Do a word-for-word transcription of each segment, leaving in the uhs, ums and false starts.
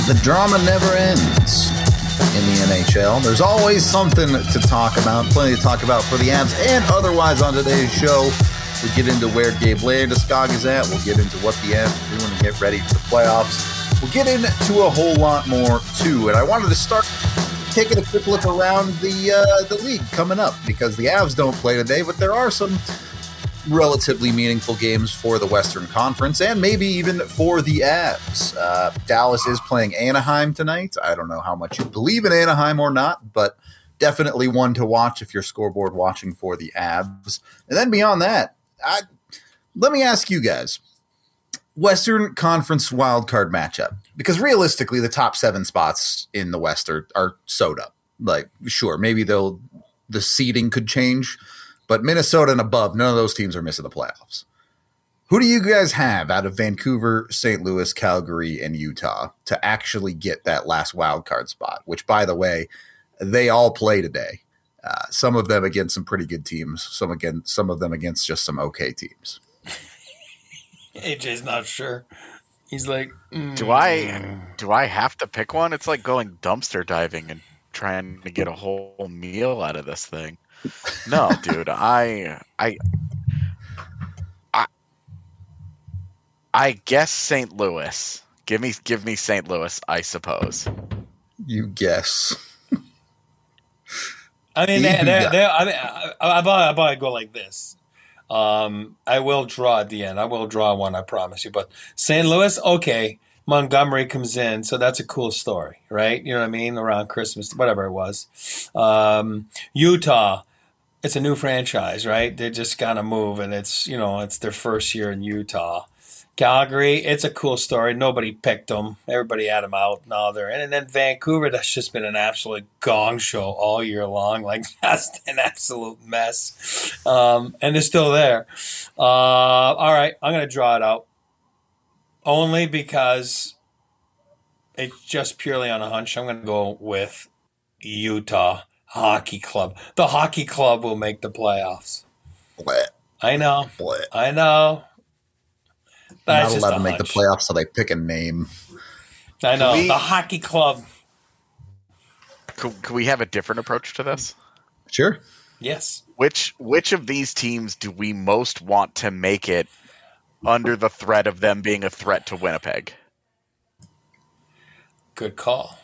The drama never ends in the N H L. There's always something to talk about, plenty to talk about for the Avs and otherwise on today's show. We'll get into where Gabe Landeskog is at. We'll get into what the Avs are doing to get ready for the playoffs. We'll get into a whole lot more, too. And I wanted to start taking a quick look around the uh, the league coming up because the Avs don't play today, but there are some relatively meaningful games for the Western Conference and maybe even for the Avs. Uh, Dallas is playing Anaheim tonight. I don't know how much you believe in Anaheim or not, but definitely one to watch if you're scoreboard watching for the Avs. And then beyond that, I, let me ask you guys, Western Conference wildcard matchup, because realistically the top seven spots in the West are, are sewed up. Like, sure, maybe they'll the seeding could change, but Minnesota and above, none of those teams are missing the playoffs. Who do you guys have out of Vancouver, Saint Louis, Calgary, and Utah to actually get that last wild card spot? Which, by the way, they all play today. Uh, some of them against some pretty good teams. Some again, some of them against just some okay teams. A J's not sure. He's like, mm. do I do I have to pick one? It's like going dumpster diving and trying to get a whole meal out of this thing. No, dude, I, I, I, I guess Saint Louis. Give me, give me Saint Louis, I suppose. You guess. I mean, they, they, they, I mean, I, I, I, I go like this. Um, I will draw at the end. I will draw one, I promise you. But Saint Louis, okay. Montgomery comes in, so that's a cool story, right? You know what I mean? Around Christmas, whatever it was. Um, Utah. It's a new franchise, right? They just kind of move, and it's, you know, it's their first year in Utah. Calgary, it's a cool story. Nobody picked them. Everybody had them out. Now they're in. And then Vancouver, that's just been an absolute gong show all year long. Like, that's an absolute mess. Um, and they're still there. Uh, all right, I'm going to draw it out. Only because it's just purely on a hunch. I'm going to go with Utah Hockey Club. The Hockey Club will make the playoffs. Blech. I know. Blech. I know. They're not allowed to make the playoffs, so they pick a name. I know. We, the Hockey Club. Could, could we have a different approach to this? Sure. Yes. Which which of these teams do we most want to make it under the threat of them being a threat to Winnipeg? Good call.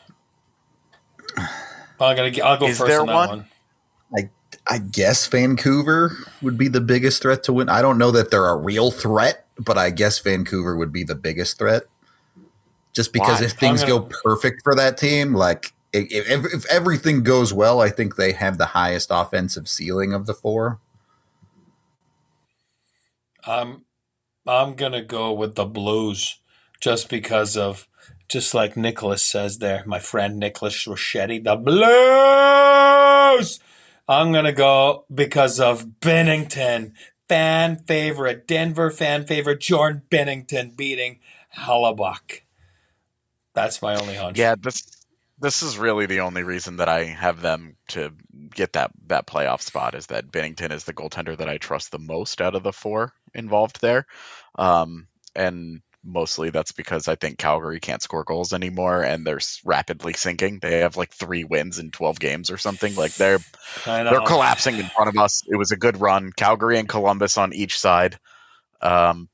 I'm gonna. I'll go Is first there on that one? one. I I guess Vancouver would be the biggest threat to win. I don't know that they're a real threat, but I guess Vancouver would be the biggest threat. Just because Why? if things gonna, go perfect for that team, like if, if, if everything goes well, I think they have the highest offensive ceiling of the four. I'm. I'm gonna go with the Blues, just because of. Just like Nicholas says there, my friend Nicholas Rochetti, the Blues! I'm going to go because of Bennington. Fan favorite, Denver fan favorite, Jordan Bennington beating Hellebuck. That's my only hunch. Yeah, this this is really the only reason that I have them to get that, that playoff spot is that Bennington is the goaltender that I trust the most out of the four involved there. Um, and mostly that's because I think Calgary can't score goals anymore and they're rapidly sinking. They have like three wins in twelve games or something. Like they're they're collapsing in front of us. It was a good run. Calgary and Columbus on each side. Um,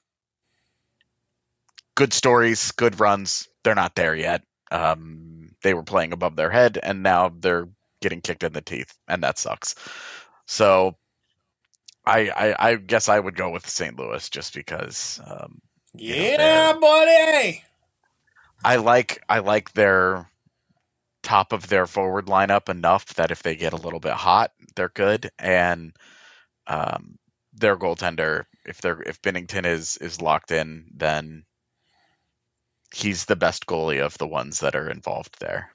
good stories, good runs. They're not there yet. Um, they were playing above their head and now they're getting kicked in the teeth and that sucks. So I I, I guess I would go with Saint Louis just because um, Yeah, you know, buddy. I like I like their top of their forward lineup enough that if they get a little bit hot, they're good. And um, their goaltender, if they're if Binnington is is locked in, then he's the best goalie of the ones that are involved there.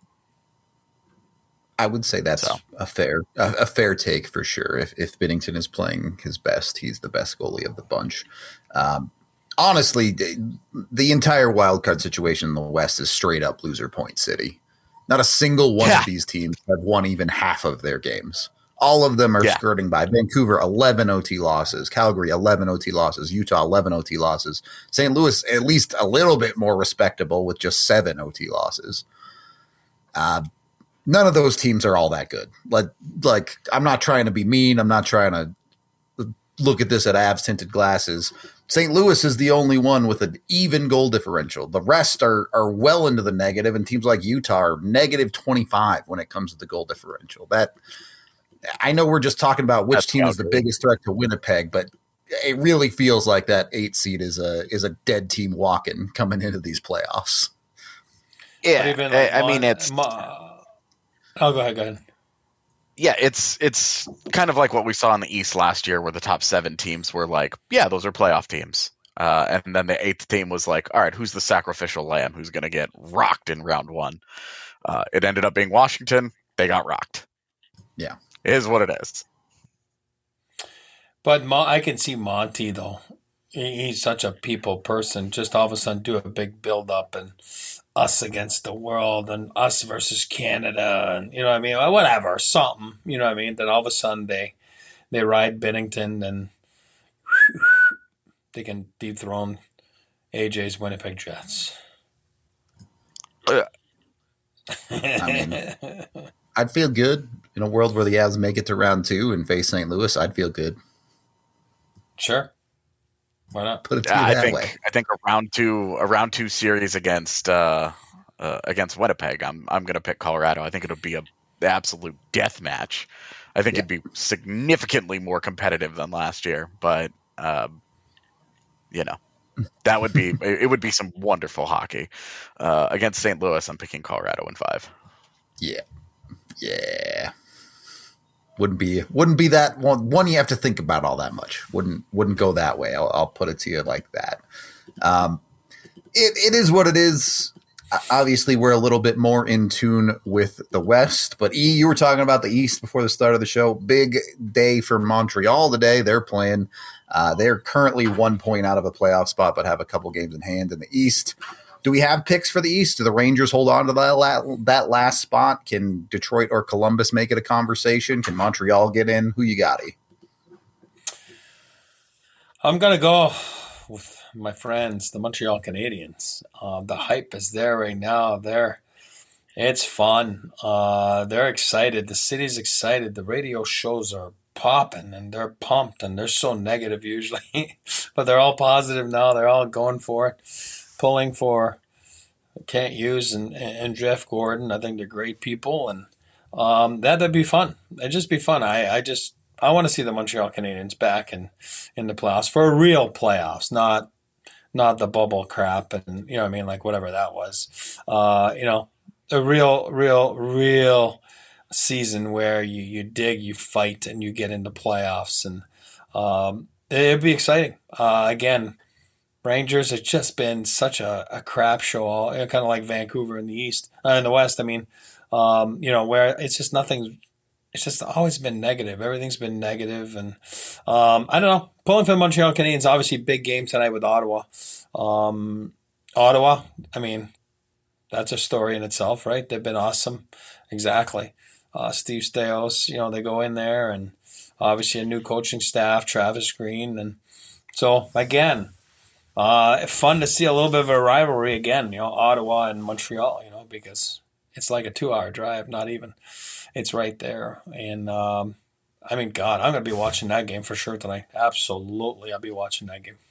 I would say that's so. a fair a, a fair take for sure. If if Binnington is playing his best, he's the best goalie of the bunch. Um, honestly, the entire wildcard situation in the West is straight up loser point city. Not a single one yeah. of these teams have won even half of their games. All of them are Yeah. skirting by. Vancouver, eleven O T losses. Calgary, eleven O T losses. Utah, eleven O T losses. Saint Louis, at least a little bit more respectable with just seven O T losses. Uh, none of those teams are all that good. Like, like I'm not trying to be mean. I'm not trying to look at this at Avs tinted glasses. Saint Louis is the only one with an even goal differential. The rest are are well into the negative, and teams like Utah are negative twenty-five when it comes to the goal differential. That I know we're just talking about which That's team is the Calgary. biggest threat to Winnipeg, but it really feels like that eight seed is a is a dead team walking coming into these playoffs. Yeah, Even I, like I mean Mon- it's Mo- oh, go ahead, go ahead. yeah, it's it's kind of like what we saw in the East last year, where the top seven teams were like, yeah, those are playoff teams, uh, and then the eighth team was like, all right, who's the sacrificial lamb who's going to get rocked in round one? Uh, it ended up being Washington. They got rocked. Yeah. It is what it is. But Mo- I can see Monty though. He- He's such a people person. Just all of a sudden do a big build up and us against the world and us versus Canada and you know what I mean, whatever, something. You know what I mean. Then all of a sudden they they ride Bennington and they can dethrone A J's Winnipeg Jets. Uh, I mean, I'd feel good in a world where the Avs make it to round two and face Saint Louis. I'd feel good. Sure. Why not? Put it to Yeah, you I that think way. I think a round two a round two series against uh, uh, against Winnipeg. I'm I'm going to pick Colorado. I think it'll be a absolute death match. I think Yeah. it'd be significantly more competitive than last year, but um, you know that would be it would be some wonderful hockey uh, against Saint Louis. I'm picking Colorado in five. Yeah. Yeah. Wouldn't be wouldn't be that one one you have to think about all that much. Wouldn't wouldn't go that way. I'll, I'll put it to you like that. Um, it it is what it is. Obviously, we're a little bit more in tune with the West, but E, you were talking about the East before the start of the show. Big day for Montreal today. They're playing. Uh, they're currently one point out of a playoff spot, but have a couple games in hand in the East. Do we have picks for the East? Do the Rangers hold on to that, la- that last spot? Can Detroit or Columbus make it a conversation? Can Montreal get in? Who you got? E? I'm gonna go with my friends, the Montreal Canadiens. Uh, the hype is there right now. They're it's fun. Uh, they're excited. The city's excited. The radio shows are popping and they're pumped and they're so negative usually, but they're all positive now. They're all going for it, pulling for Kent Hughes and, and Jeff Gordon. I think they're great people, and um, that'd be fun. It'd just be fun. I, I just I want to see the Montreal Canadiens back in, in the playoffs for a real playoffs, not not the bubble crap and you know what I mean, like whatever that was. Uh, you know, a real, real, real season where you, you dig, you fight, and you get into playoffs, and um, it'd be exciting. Uh, again, Rangers have just been such a, a crap show, all kind of like Vancouver in the East, uh, in the West. I mean, um, you know, where it's just nothing. It's just always been negative. Everything's been negative, and um, I don't know. Pulling for the Montreal Canadiens, obviously big game tonight with Ottawa. Um, Ottawa, I mean, that's a story in itself, right? They've been awesome. Exactly. Uh, Steve Stais, you know, they go in there, and obviously a new coaching staff, Travis Green, and so again. Uh, fun to see a little bit of a rivalry again, you know, Ottawa and Montreal, you know, because it's like a two-hour drive, not even. It's right there. And, um, I mean, God, I'm going to be watching that game for sure tonight. Absolutely, I'll be watching that game.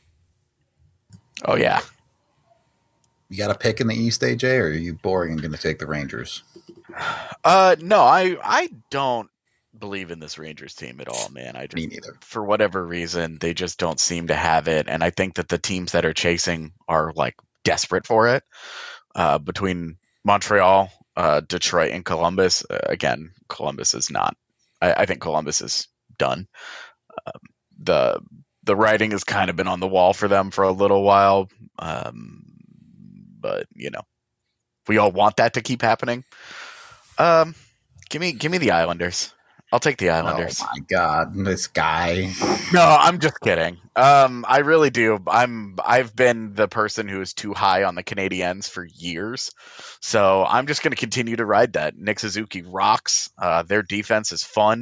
Oh, yeah. You got a pick in the East, A J, or are you boring and going to take the Rangers? Uh, no, I I don't believe in this Rangers team at all, man. I just, Me neither. for whatever reason, they just don't seem to have it, and I think that the teams that are chasing are like desperate for it. Uh, between Montreal, uh, Detroit, and Columbus, uh, again, Columbus is not. I, I think Columbus is done. Um, the the writing has kind of been on the wall for them for a little while, um, but you know, we all want that to keep happening. Um, give me give me the Islanders. I'll take the Islanders. Oh my God, this guy. No, I'm just kidding. Um, I really do. I'm I've been the person who is too high on the Canadiens for years, so I'm just going to continue to ride that. Nick Suzuki rocks. Uh, their defense is fun.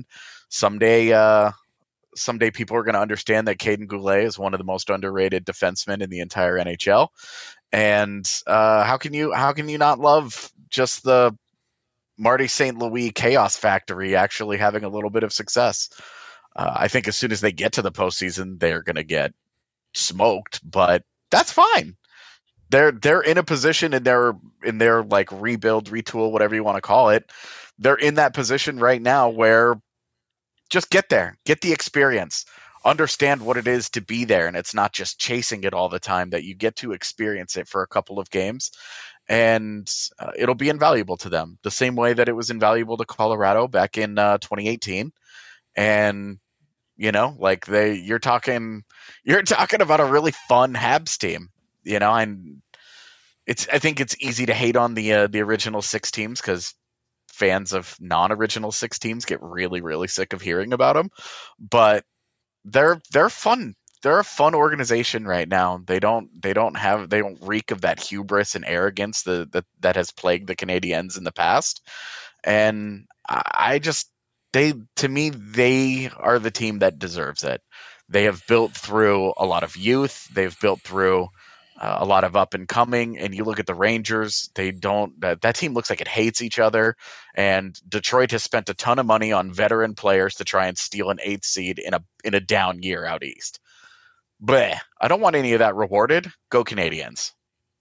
someday, uh, someday people are going to understand that Caden Goulet is one of the most underrated defensemen in the entire N H L. And uh, how can you how can you not love just the Marty Saint Louis chaos factory actually having a little bit of success? Uh, I think as soon as they get to the postseason, they're going to get smoked, but that's fine. They're they're in a position in their in their like rebuild, retool, whatever you want to call it. They're in that position right now where just get there, get the experience, understand what it is to be there, and it's not just chasing it all the time. That you get to experience it for a couple of games, and uh, it'll be invaluable to them, the same way that it was invaluable to Colorado back in uh, twenty eighteen. And you know, like they, you're talking, you're talking about a really fun Habs team. You know, and it's I think it's easy to hate on the uh, the original six teams because fans of non-original six teams get really, really sick of hearing about them, but they're they're fun. They're a fun organization right now. They don't they don't have they don't reek of that hubris and arrogance that that, that has plagued the Canadiens in the past. And I, I just they to me they are the team that deserves it. They have built through a lot of youth. They've built through Uh, a lot of up and coming, and you look at the Rangers, they don't, that, that team looks like it hates each other, and Detroit has spent a ton of money on veteran players to try and steal an eighth seed in a in a down year out east. Bleh, I don't want any of that rewarded. Go Canadiens.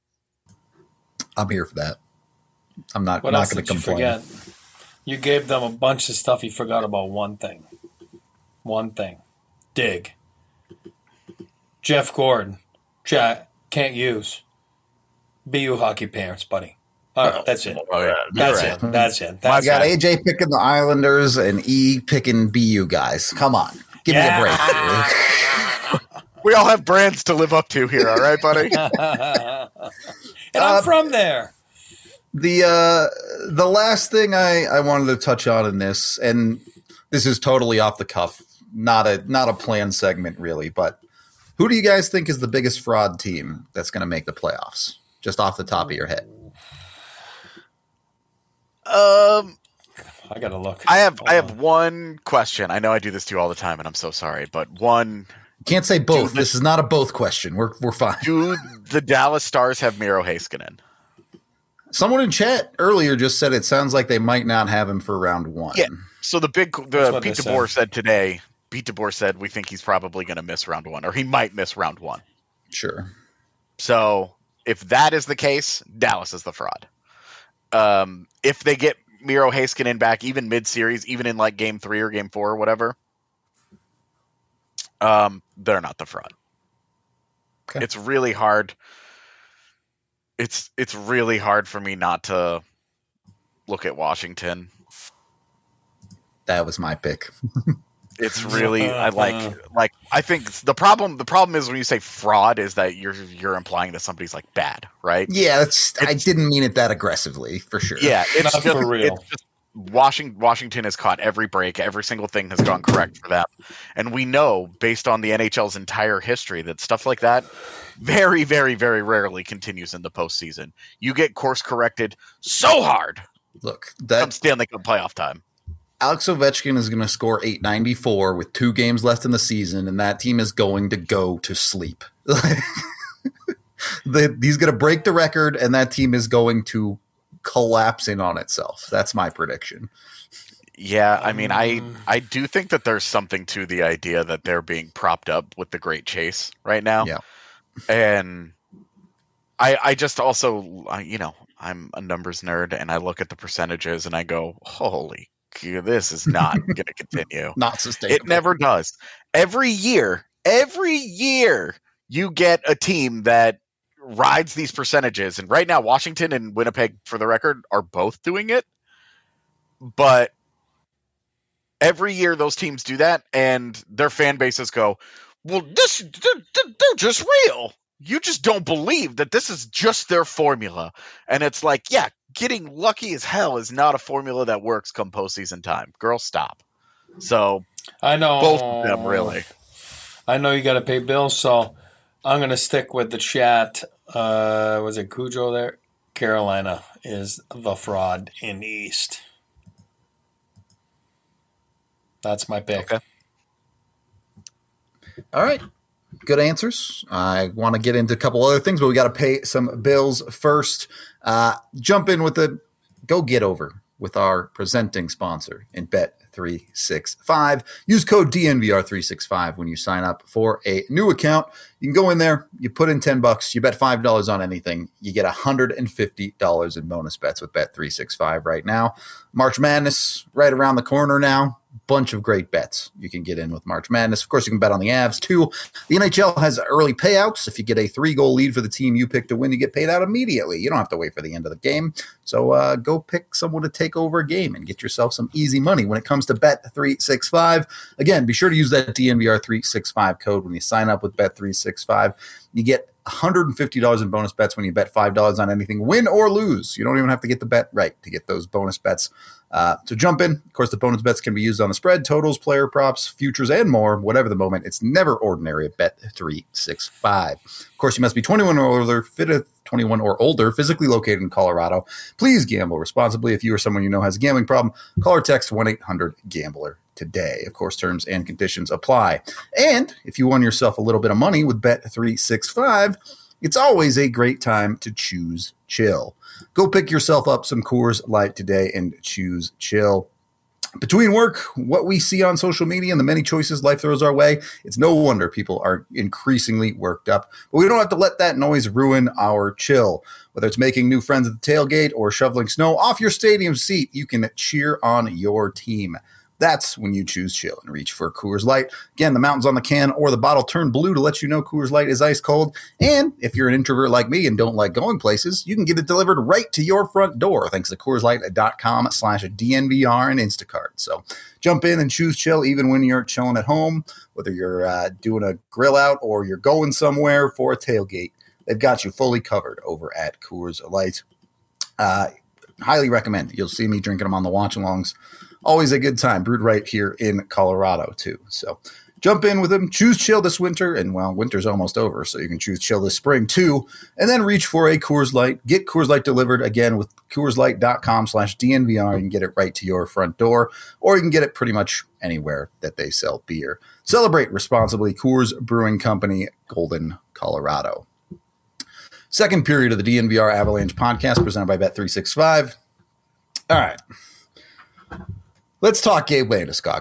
I'm here for that. I'm not, what not else going did to complain. You, forget? You gave them a bunch of stuff. You forgot about one thing. One thing. Dig. Jeff Gordon. Jack. Can't use. B U hockey parents, buddy. All right, that's it. Oh, yeah. That's right. it. That's it. I That's got it. A J picking the Islanders and E picking B U guys. Come on. Give Yeah. me a break. We all have brands to live up to here, all right, buddy? And I'm Uh, from there. The uh, the last thing I, I wanted to touch on in this, and this is totally off the cuff, not a not a planned segment really, but who do you guys think is the biggest fraud team that's going to make the playoffs? Just off the top of your head. Um, I gotta look. I have Hold I have on. one question. I know I do this to you all the time, and I'm so sorry, but one: You can't say both. Dude, this is not a both question. We're we're fine. do the Dallas Stars have Miro Heiskanen? Someone in chat earlier just said it sounds like they might not have him for round one. Yeah. So the big That's the what Pete they DeBoer said. said today. Pete DeBoer said we think he's probably going to miss round one, or he might miss round one. Sure. So if that is the case, Dallas is the fraud. Um, if they get Miro Heiskanen back, even mid-series, even in like game three or game four or whatever, um, they're not the fraud. Okay. It's really hard. It's it's really hard for me not to look at Washington. That was my pick. It's really I like like I think the problem the problem is when you say fraud is that you're you're implying that somebody's like bad, right? Yeah, that's, I It's- didn't mean it that aggressively, for sure. Yeah, it's Not just, for real. It's just Washington Washington has caught every break, every single thing has gone correct for them. And we know based on the N H L's entire history that stuff like that very, very, very rarely continues in the postseason. You get course corrected so hard Look, come that Stanley Cup playoff time. Alex Ovechkin is going to score eight ninety-four with two games left in the season, and that team is going to go to sleep. The- he's going to break the record, and that team is going to collapse in on itself. That's my prediction. Yeah, I mean, I Um, I do think that there's something to the idea that they're being propped up with the Great Chase right now. Yeah. And I I just also, I- you know, I'm a numbers nerd, and I look at the percentages, and I go, holy, g- this is not going to continue. Not sustainable. It never does. Every year, every year, you get a team that rides these percentages. And right now, Washington and Winnipeg, for the record, are both doing it. But every year, those teams do that, and their fan bases go, well, this they're, they're just real. You just don't believe that this is just their formula. And it's like, yeah, getting lucky as hell is not a formula that works come postseason time. Girl, stop. So I know both of them, really. I know you got to pay bills, so I'm going to stick with the chat. Uh, was it Cujo there? Carolina is the fraud in the East. That's my pick. Okay. All right. Good answers. I want to get into a couple other things, but we got to pay some bills first. Uh, jump in with the go get over with our presenting sponsor in Bet three sixty-five. Use code D N V R three sixty-five when you sign up for a new account. You can go in there, you put in ten bucks, you bet five dollars on anything, you get one hundred fifty dollars in bonus bets with Bet three sixty-five right now. March Madness right around the corner now. Bunch of great bets you can get in with March Madness. Of course, you can bet on the Avs too. The N H L has early payouts. If you get a three-goal lead for the team you pick to win, you get paid out immediately. You don't have to wait for the end of the game. So uh, go pick someone to take over a game and get yourself some easy money when it comes to Bet three sixty-five. Again, be sure to use that D N V R three sixty-five code when you sign up with Bet three sixty-five. You get one hundred fifty dollars in bonus bets when you bet five dollars on anything, win or lose. You don't even have to get the bet right to get those bonus bets. Uh, so jump in. Of course, the bonus bets can be used on the spread, totals, player props, futures, and more. Whatever the moment, it's never ordinary at Bet three sixty-five. Of course, you must be twenty-one or older, fit at twenty-one or older, physically located in Colorado. Please gamble responsibly. If you or someone you know has a gambling problem, call or text one eight hundred gambler today. Of course, terms and conditions apply. And if you won yourself a little bit of money with Bet three sixty-five, it's always a great time to choose chill. Go pick yourself up some Coors Light today and choose chill. Between work, what we see on social media, and the many choices life throws our way, it's no wonder people are increasingly worked up. But we don't have to let that noise ruin our chill. Whether it's making new friends at the tailgate or shoveling snow off your stadium seat, you can cheer on your team. That's when you choose chill and reach for Coors Light. Again, the mountains on the can or the bottle turn blue to let you know Coors Light is ice cold. And if you're an introvert like me and don't like going places, you can get it delivered right to your front door thanks to Coors Light dot com slash D N V R and Instacart. So jump in and choose chill even when you're chilling at home, whether you're uh, doing a grill out or you're going somewhere for a tailgate. They've got you fully covered over at Coors Light. Uh, highly recommend. You'll see me drinking them on the watch-alongs. Always a good time, brewed right here in Colorado, too. So jump in with them. Choose chill this winter, and, well, winter's almost over, so you can choose chill this spring, too. And then reach for a Coors Light. Get Coors Light delivered, again, with Coors Light dot com slash D N V R. You can get it right to your front door, or you can get it pretty much anywhere that they sell beer. Celebrate responsibly. Coors Brewing Company, Golden, Colorado. Second period of the D N V R Avalanche podcast presented by Bet three sixty-five. All right. Let's talk Gabe Landeskog.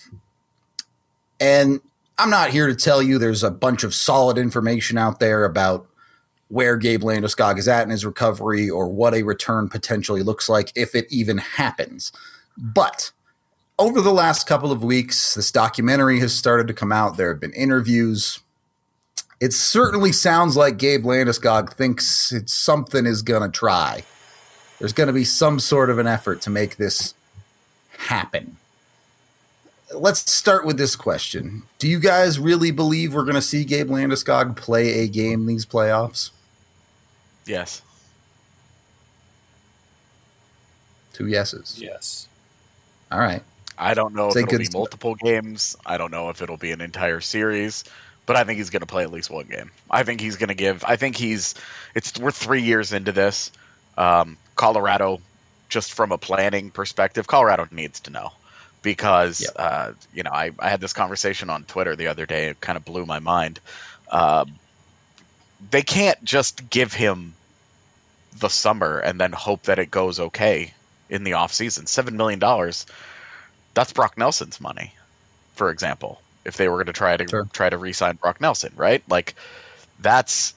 And I'm not here to tell you there's a bunch of solid information out there about where Gabe Landeskog is at in his recovery or what a return potentially looks like if it even happens. But over the last couple of weeks, this documentary has started to come out. There have been interviews. It certainly sounds like Gabe Landeskog thinks it's something is going to try. There's going to be some sort of an effort to make this happen. Let's start with this question. Do you guys really believe we're going to see Gabe Landeskog play a game these playoffs? Yes. Two yeses. Yes. All right. I don't know Say if it'll be start. multiple games. I don't know if it'll be an entire series, but I think he's going to play at least one game. I think he's going to give. I think he's. It's we're three years into this. Um, Colorado, just from a planning perspective, Colorado needs to know because Yep. uh, you know I, I had this conversation on Twitter the other day. It kind of blew my mind. Uh, they can't just give him the summer and then hope that it goes okay in the offseason. Seven million dollars. That's Brock Nelson's money, for example. If they were going to try to Sure. try to re-sign Brock Nelson, right? Like that's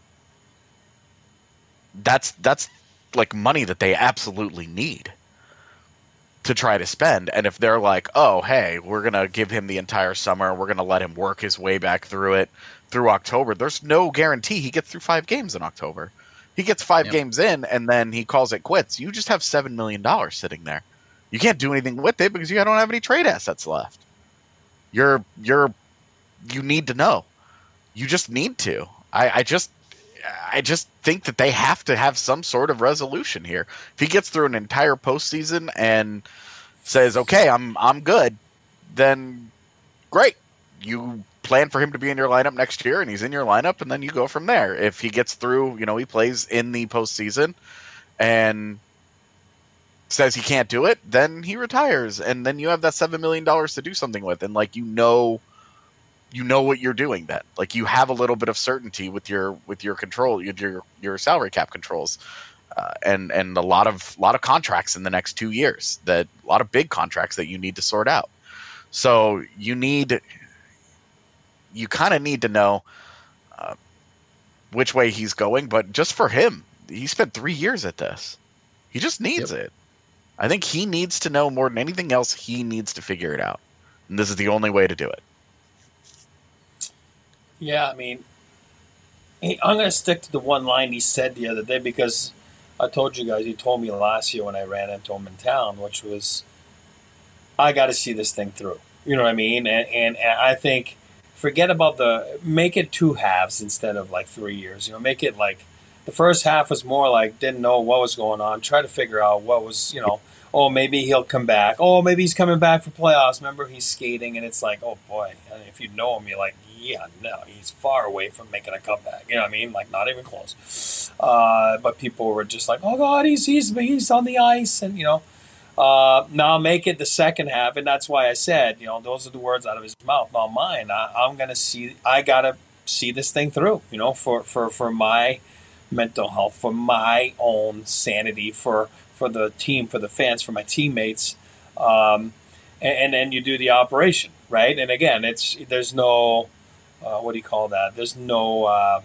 that's that's like money that they absolutely need to try to spend. And if they're like, oh, hey, we're going to give him the entire summer, we're going to let him work his way back through it through October, there's no guarantee he gets through five games in October. He gets five Yep. games in and then he calls it quits. You just have seven million dollars sitting there. You can't do anything with it because you don't have any trade assets left. You're you're you need to know. You just need to. I, I just I just think that they have to have some sort of resolution here. If he gets through an entire postseason and says, "Okay, I'm I'm good," then great. You plan for him to be in your lineup next year, and he's in your lineup, and then you go from there. If he gets through, you know, he plays in the postseason, and says he can't do it, then he retires, and then you have that seven million dollars to do something with, and like you know, you know what you're doing. Then, like you have a little bit of certainty with your with your control, your your salary cap controls, uh, and and a lot of lot of contracts in the next two years. That a lot of big contracts that you need to sort out. So you need, you kind of need to know uh, which way he's going. But just for him, he spent three years at this. He just needs yep. it. I think he needs to know more than anything else. He needs to figure it out. And this is the only way to do it. Yeah, I mean, he, I'm going to stick to the one line he said the other day because I told you guys, he told me last year when I ran into him in town, which was, I got to see this thing through. You know what I mean? And, and, and I think, forget about the, make it two halves instead of like three years. You know, make it like, the first half was more like didn't know what was going on, try to figure out what was, you know, oh, maybe he'll come back. Oh, maybe he's coming back for playoffs. Remember, he's skating, and it's like, oh, boy. I mean, if you know him, you're like, yeah, no, he's far away from making a comeback. You know what I mean? Like, not even close. Uh, but people were just like, oh, God, he's he's he's on the ice. And, you know, uh, now make it the second half. And that's why I said, you know, those are the words out of his mouth, not mine. I, I'm going to see – I got to see this thing through, you know, for, for, for my – mental health, for my own sanity, for for the team, for the fans, for my teammates, um, and then you do the operation, right? And again, it's there's no uh, what do you call that? There's no uh,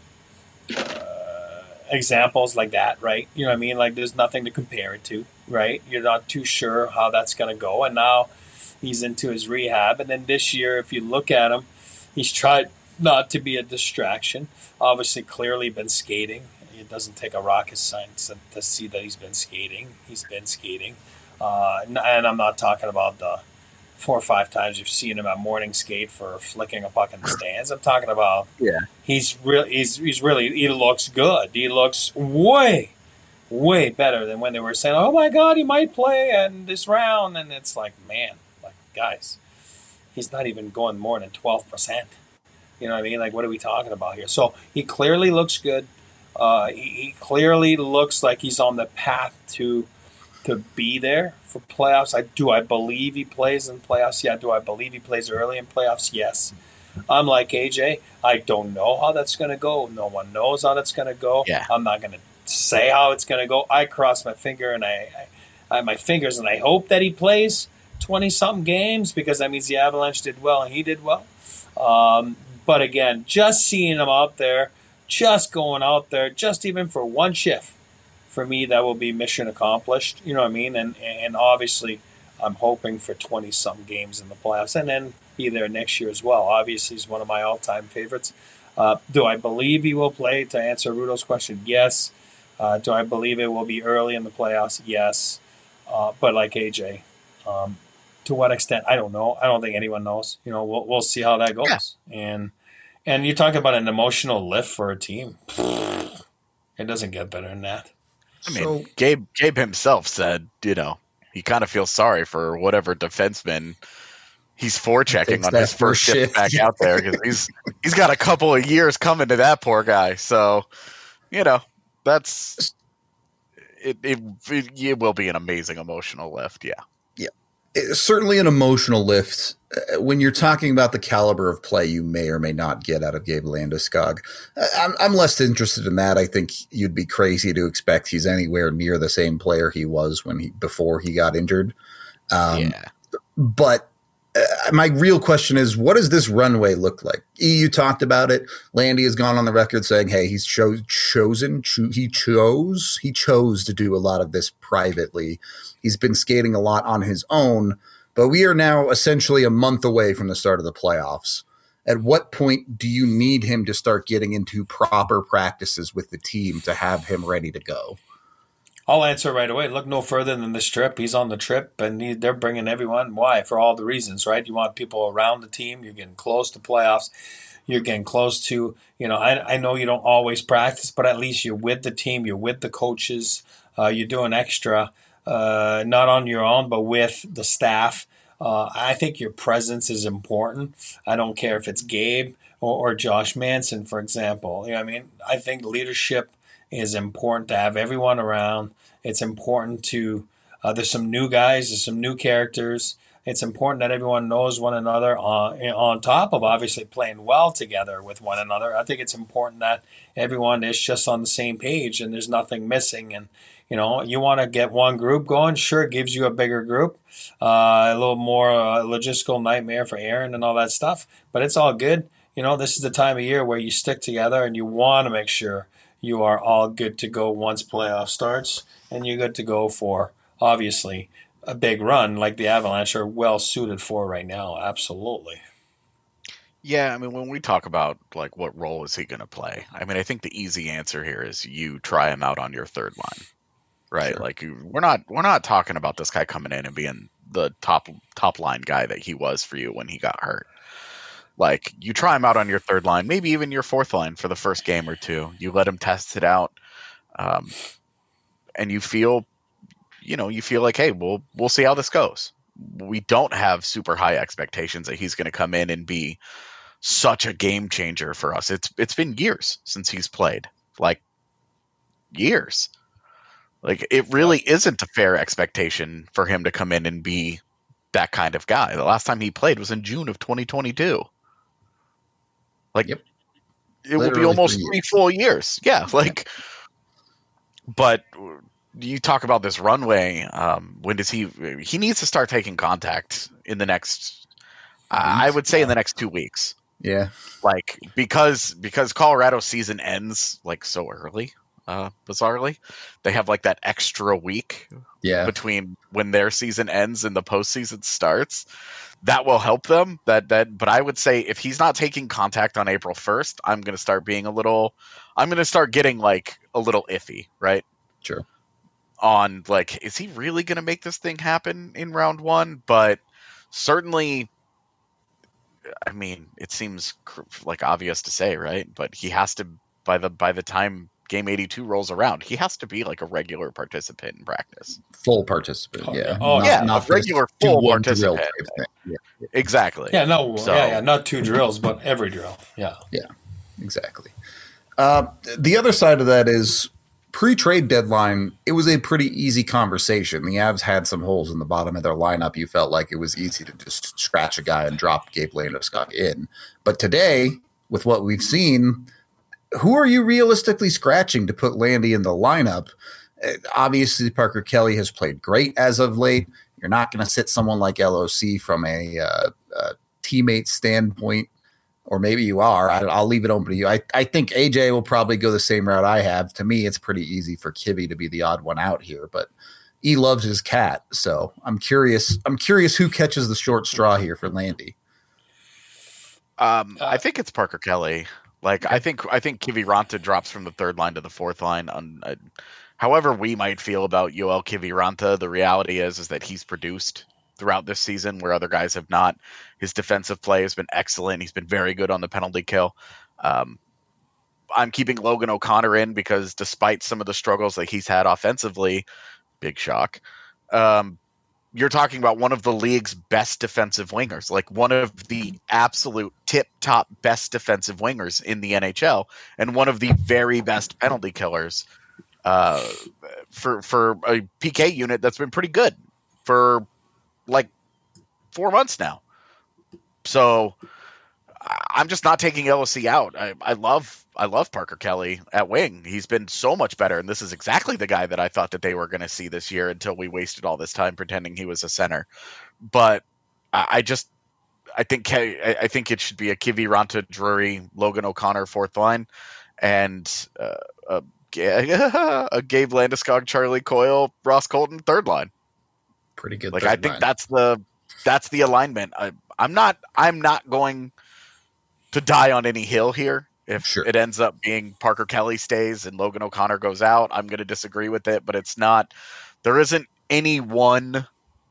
uh, examples like that, right? You know what I mean? Like there's nothing to compare it to, right? You're not too sure how that's going to go, and now he's into his rehab, and then this year, if you look at him, he's tried not to be a distraction. Obviously, clearly been skating. It doesn't take a rocket science to, to see that he's been skating. He's been skating. Uh, and I'm not talking about the four or five times you've seen him at morning skate for flicking a puck in the stands. I'm talking about yeah. he's, re- he's, he's really – he looks good. He looks way, way better than when they were saying, oh, my God, he might play in this round. And it's like, man, like guys, he's not even going more than twelve percent. You know what I mean? Like, what are we talking about here? So he clearly looks good. Uh, he, he clearly looks like he's on the path to to be there for playoffs. I do. I believe he plays in playoffs. Yeah. Do I believe he plays early in playoffs? Yes. I'm like A J. I don't know how that's going to go. No one knows how that's going to go. Yeah. I'm not going to say how it's going to go. I cross my finger and I, I, I my fingers and I hope that he plays twenty something games because that means the Avalanche did well and he did well. Um, but again, just seeing him out there. Just going out there, just even for one shift, for me, that will be mission accomplished. You know what I mean? And and obviously, I'm hoping for twenty-some games in the playoffs and then be there next year as well. Obviously, he's one of my all-time favorites. Uh, do I believe he will play? To answer Rudo's question, yes. Uh, do I believe it will be early in the playoffs? Yes. Uh, but like A J, um, to what extent? I don't know. I don't think anyone knows. You know, we'll we'll see how that goes. Yeah. And And you talk about an emotional lift for a team. It doesn't get better than that. I mean, so, Gabe Gabe himself said, you know, he kind of feels sorry for whatever defenseman he's forechecking on his first shift back out there because he's he's got a couple of years coming to that poor guy. So, you know, that's it. It, it, it will be an amazing emotional lift. Yeah. It's certainly an emotional lift. When you're talking about the caliber of play you may or may not get out of Gabe Landeskog, I'm, I'm less interested in that. I think you'd be crazy to expect he's anywhere near the same player he was when he before he got injured. Um, yeah. But uh, my real question is, what does this runway look like? You talked about it. Landy has gone on the record saying, hey, he's cho- chosen, cho- he chose, he chose to do a lot of this privately. He's been skating a lot on his own, but we are now essentially a month away from the start of the playoffs. At what point do you need him to start getting into proper practices with the team to have him ready to go? I'll answer right away. Look no further than this trip. He's on the trip, and he, they're bringing everyone. Why? For all the reasons, right? You want people around the team. You're getting close to playoffs. You're getting close to, you know, I, I know you don't always practice, but at least you're with the team. You're with the coaches. Uh, you're doing extra, uh, not on your own, but with the staff. Uh, I think your presence is important. I don't care if it's Gabe or, or Josh Manson, for example. You know what I mean? I think leadership is important to have everyone around. It's important to Uh, there's some new guys, there's some new characters. It's important that everyone knows one another on, on top of obviously playing well together with one another. I think it's important that everyone is just on the same page and there's nothing missing. And, you know, you want to get one group going, sure, it gives you a bigger group, uh, a little more uh, logistical nightmare for Aaron and all that stuff, but it's all good. You know, this is the time of year where you stick together and you want to make sure you are all good to go once playoff starts, and you're good to go for, obviously, a big run like the Avalanche are well suited for right now. Absolutely. Yeah, I mean, when we talk about like what role is he going to play, I mean, I think the easy answer here is you try him out on your third line, right? Sure. Like we're not we're not talking about this guy coming in and being the top top line guy that he was for you when he got hurt. Like you try him out on your third line, maybe even your fourth line for the first game or two. You let him test it out, um, and you feel. You know, you feel like, hey, we'll we'll see how this goes. We don't have super high expectations that he's going to come in and be such a game changer for us. It's it's been years since he's played, like years. Like it really isn't a fair expectation for him to come in and be that kind of guy. The last time he played was in June of twenty twenty-two. Like yep. It Literally will be almost three, three full years. Yeah, like, yeah. But. You talk about this runway. Um, when does he? He needs to start taking contact in the next. Uh, I would say in the next two weeks. Yeah, like because because Colorado season ends like so early. Uh, bizarrely, they have like that extra week. Yeah. Between when their season ends and the postseason starts, that will help them. That that. But I would say if he's not taking contact on April first, I'm going to start being a little. I'm going to start getting like a little iffy, right? Sure. On like, is he really going to make this thing happen in round one? But certainly, I mean, it seems like obvious to say, right? But he has to by the by the time game eighty-two rolls around, he has to be like a regular participant in practice, full participant. Oh, yeah, oh not, yeah, not a regular full participant. Yeah. Exactly. Yeah, no, so, yeah, yeah, not two drills, but every drill. Yeah, yeah, exactly. Uh, the other side of that is. Pre-trade deadline, it was a pretty easy conversation. The Avs had some holes in the bottom of their lineup. You felt like it was easy to just scratch a guy and drop Gabe Landeskog in. But today, with what we've seen, who are you realistically scratching to put Landy in the lineup? Uh, obviously, Parker Kelly has played great as of late. You're not going to sit someone like L O C from a, uh, a teammate standpoint. Or maybe you are. I, I'll leave it open to you. I, I think A J will probably go the same route I have. To me, it's pretty easy for Kivy to be the odd one out here, but he loves his cat. So I'm curious. I'm curious who catches the short straw here for Landy. Um, I think it's Parker Kelly. Like okay. I think I think Kiviranta drops from the third line to the fourth line. On uh, however we might feel about Yoel Kiviranta, the reality is is that he's produced throughout this season where other guys have not. His defensive play has been excellent. He's been very good on the penalty kill. Um, I'm keeping Logan O'Connor in because despite some of the struggles that he's had offensively, big shock, um, you're talking about one of the league's best defensive wingers, like one of the absolute tip-top best defensive wingers in the N H L and one of the very best penalty killers uh, for, for a P K unit that's been pretty good for like four months now. So I'm just not taking L O C out. I, I love I love Parker Kelly at wing. He's been so much better, and this is exactly the guy that I thought that they were going to see this year until we wasted all this time pretending he was a center. But I, I just I think I think it should be a Kiviranta, Drury, Logan O'Connor fourth line, and uh, a, a Gabe Landeskog, Charlie Coyle, Ross Colton third line. Pretty good. Like I think line. that's the that's the alignment. I, I'm not I'm not going to die on any hill here. If sure. it ends up being Parker Kelly stays and Logan O'Connor goes out, I'm going to disagree with it. But it's not. There isn't any one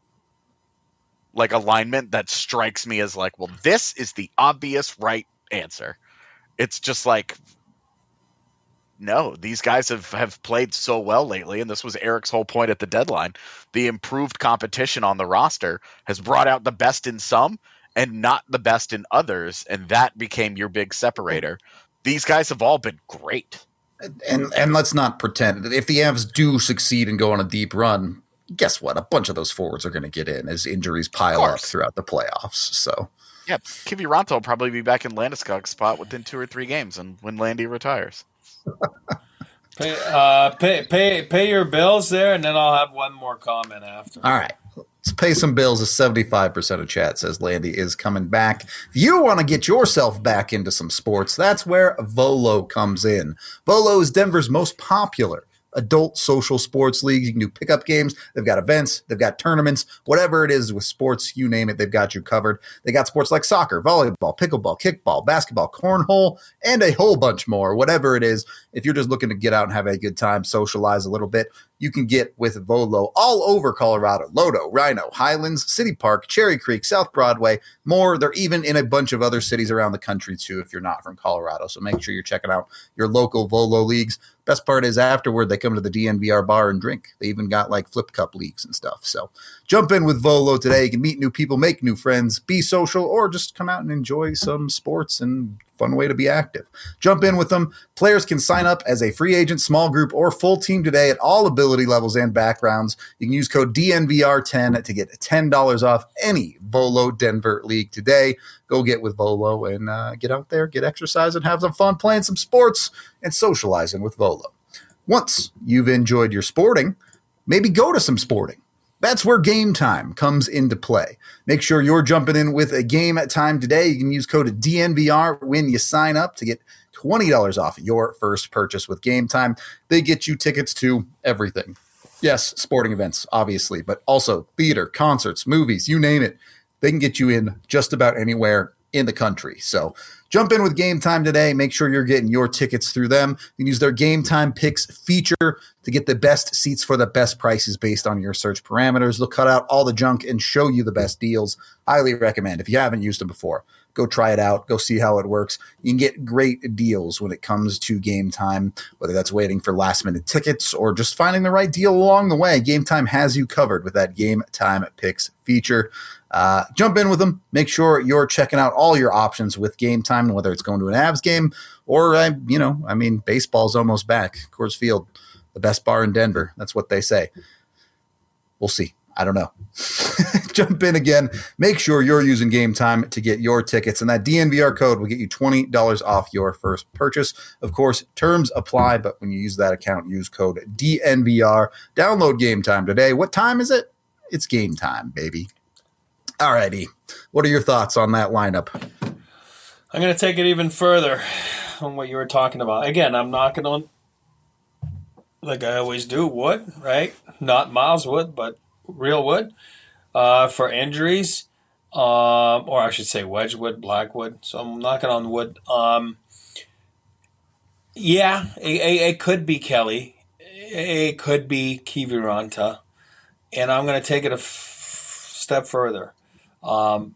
like alignment that strikes me as like, well, this is the obvious right answer. It's just like, no, these guys have, have played so well lately, and this was Eric's whole point at the deadline. The improved competition on the roster has brought out the best in some and not the best in others, and that became your big separator. These guys have all been great. And and let's not pretend. If the Avs do succeed and go on a deep run, guess what? A bunch of those forwards are going to get in as injuries pile up throughout the playoffs. So, yeah, Kiviranta will probably be back in Landeskog's spot within two or three games, and when Landy retires. Pay, uh, pay, pay, pay your bills there, and then I'll have one more comment after. All right. Let's pay some bills. As seventy-five percent of chat says Landy is coming back. If you want to get yourself back into some sports, that's where Volo comes in. Volo is Denver's most popular adult social sports leagues. You can do pickup games. They've got events. They've got tournaments. Whatever it is with sports, you name it, they've got you covered. They got sports like soccer, volleyball, pickleball, kickball, basketball, cornhole, and a whole bunch more. Whatever it is, if you're just looking to get out and have a good time, socialize a little bit, you can get with Volo all over Colorado. Lodo, Rhino, Highlands, City Park, Cherry Creek, South Broadway, more. They're even in a bunch of other cities around the country, too, if you're not from Colorado. So make sure you're checking out your local Volo leagues. Best part is afterward, they come to the D N V R bar and drink. They even got like flip cup leagues and stuff. So jump in with Volo today. You can meet new people, make new friends, be social, or just come out and enjoy some sports and fun way to be active. Jump in with them. Players can sign up as a free agent, small group, or full team today at all ability levels and backgrounds. You can use code D N V R ten to get ten dollars off any Volo Denver league today. Go get with Volo and uh, get out there, get exercise, and have some fun playing some sports and socializing with Volo. Once you've enjoyed your sporting, maybe go to some sporting. That's where Game Time comes into play. Make sure you're jumping in with a Game Time today. You can use code D N V R when you sign up to get twenty dollars off your first purchase with Game Time. They get you tickets to everything. Yes, sporting events, obviously, but also theater, concerts, movies, you name it. They can get you in just about anywhere in the country. So jump in with Game Time today. Make sure you're getting your tickets through them. You can use their Game Time Picks feature to get the best seats for the best prices based on your search parameters. They'll cut out all the junk and show you the best deals. Highly recommend. If you haven't used them before, go try it out. Go see how it works. You can get great deals when it comes to Game Time, whether that's waiting for last-minute tickets or just finding the right deal along the way. Game Time has you covered with that Game Time Picks feature. Uh, jump in with them. Make sure you're checking out all your options with Game Time, whether it's going to an Avs game or, uh, you know, I mean, baseball's almost back. Coors Field, the best bar in Denver. That's what they say. We'll see. I don't know. Jump in again. Make sure you're using Game Time to get your tickets, and that D N V R code will get you twenty dollars off your first purchase. Of course, terms apply, but when you use that account, use code D N V R. Download Game Time today. What time is it? It's game time, baby. All righty. What are your thoughts on that lineup? I'm going to take it even further on what you were talking about. Again, I'm knocking on, like I always do, wood, right? Not Miles Wood, but real wood uh, for injuries, um, or I should say Wedgwood, Blackwood. So I'm knocking on wood. Um, yeah, it, it, it could be Kelly. It could be Kiviranta. And I'm going to take it a f- step further. Um,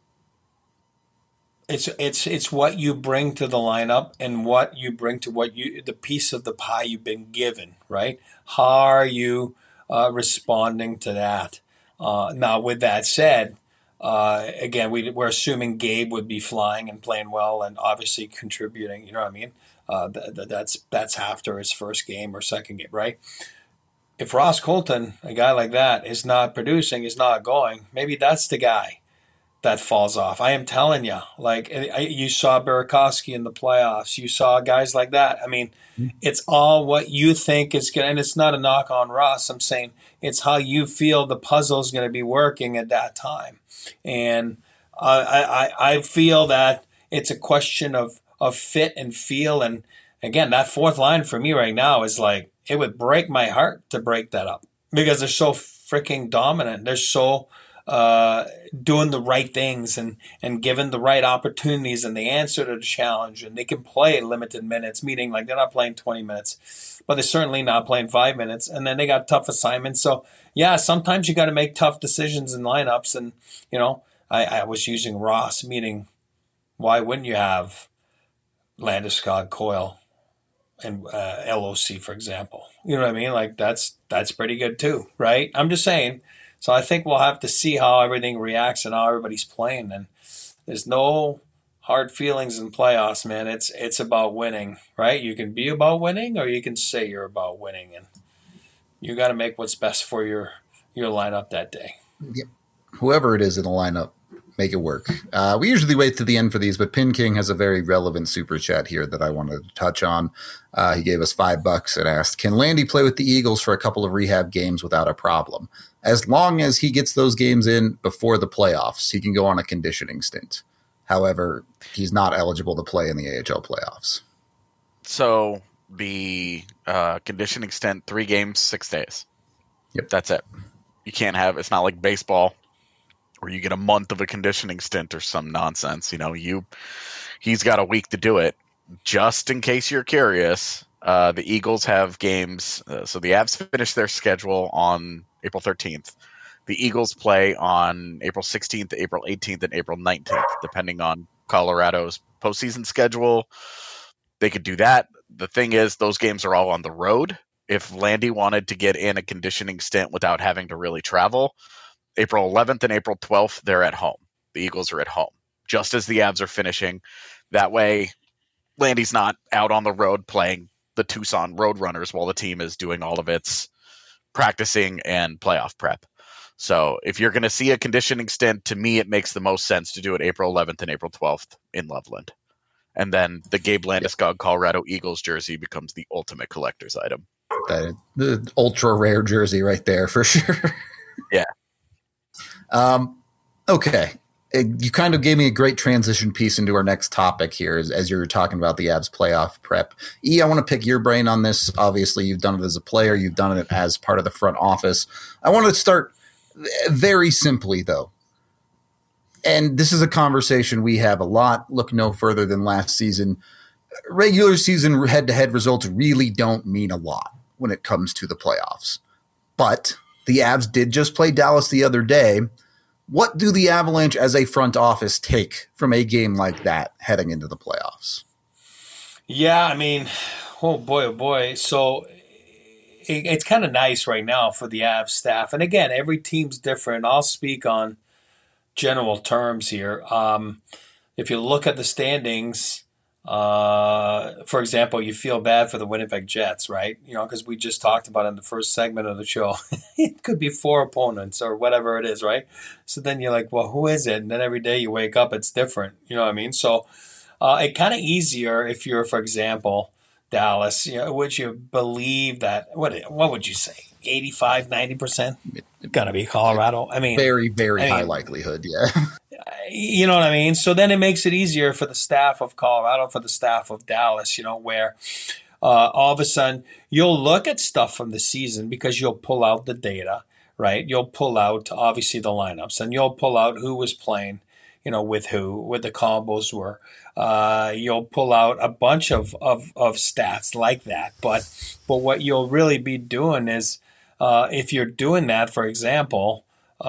it's it's it's what you bring to the lineup and what you bring to what you the piece of the pie you've been given, right? How are you uh, responding to that? Uh, now, with that said, uh, again, we, we're assuming Gabe would be flying and playing well and obviously contributing. You know what I mean? Uh, th- th- that's that's after his first game or second game, right? If Ross Colton, a guy like that, is not producing, is not going, maybe that's the guy that falls off. I am telling you, like you saw Burakovsky in the playoffs. You saw guys like that. I mean, mm-hmm. It's all what you think is going to, and it's not a knock on Ross. I'm saying it's how you feel the puzzle is going to be working at that time. And uh, I, I, I feel that it's a question of, of fit and feel. And again, that fourth line for me right now is like, it would break my heart to break that up because they're so freaking dominant. They're so uh, doing the right things and, and given the right opportunities, and they answer to the challenge, and they can play limited minutes, meaning like they're not playing twenty minutes, but they're certainly not playing five minutes. And then they got tough assignments. So yeah, sometimes you got to make tough decisions in lineups. And, you know, I, I was using Ross, meaning why wouldn't you have Landeskog, Coyle, and uh, L O C, for example? You know what I mean? Like that's that's pretty good too, right? I'm just saying. So I think we'll have to see how everything reacts and how everybody's playing. And there's no hard feelings in playoffs, man. It's it's about winning, right? You can be about winning, or you can say you're about winning, and you got to make what's best for your your lineup that day. Yep. Whoever it is in the lineup, make it work. Uh, we usually wait to the end for these, but Pin King has a very relevant super chat here that I wanted to touch on. Uh, he gave us five bucks and asked, can Landy play with the Eagles for a couple of rehab games without a problem? As long as he gets those games in before the playoffs, he can go on a conditioning stint. However, he's not eligible to play in the A H L playoffs. So the uh, conditioning stint, three games, six days. Yep. That's it. You can't have, it's not like baseball where you get a month of a conditioning stint or some nonsense. You know, you he's got a week to do it. Just in case you're curious, uh, the Eagles have games. Uh, so the Avs finish their schedule on April thirteenth. The Eagles play on April sixteenth, April eighteenth, and April nineteenth, depending on Colorado's postseason schedule. They could do that. The thing is, those games are all on the road. If Landy wanted to get in a conditioning stint without having to really travel, April eleventh and April twelfth, they're at home. The Eagles are at home, just as the Avs are finishing. That way, Landy's not out on the road playing the Tucson Roadrunners while the team is doing all of its practicing and playoff prep. So if you're going to see a conditioning stint, to me, it makes the most sense to do it April eleventh and April twelfth in Loveland. And then the Gabe Landeskog Colorado Eagles jersey becomes the ultimate collector's item. The, the ultra rare jersey right there for sure. Yeah. Um, okay. You kind of gave me a great transition piece into our next topic here as, as you're talking about the Avs playoff prep. E, I want to pick your brain on this. Obviously, you've done it as a player. You've done it as part of the front office. I want to start very simply, though. And this is a conversation we have a lot. Look no further than last season. Regular season head-to-head results really don't mean a lot when it comes to the playoffs. But the Avs did just play Dallas the other day. What do the Avalanche as a front office take from a game like that heading into the playoffs? Yeah, I mean, oh boy, oh boy. So it, it's kind of nice right now for the Avs staff. And again, every team's different. I'll speak on general terms here. Um, if you look at the standings, uh, for example, you feel bad for the Winnipeg Jets, right? You know, because we just talked about in the first segment of the show, it could be four opponents or whatever it is, right? So then you're like, well, who is it? And then every day you wake up, it's different. You know what I mean? So uh, it kind of easier if you're, for example, Dallas, you know, would you believe that, what what would you say, eighty-five, ninety percent? Got to be Colorado. I mean, very, very I high mean, likelihood, yeah. You know what I mean? So then it makes it easier for the staff of Colorado, for the staff of Dallas, you know, where uh, all of a sudden you'll look at stuff from the season because you'll pull out the data, right? You'll pull out, obviously, the lineups, and you'll pull out who was playing, you know, with who, what the combos were. Uh, you'll pull out a bunch of, of, of stats like that. But, but what you'll really be doing is, uh, if you're doing that, for example,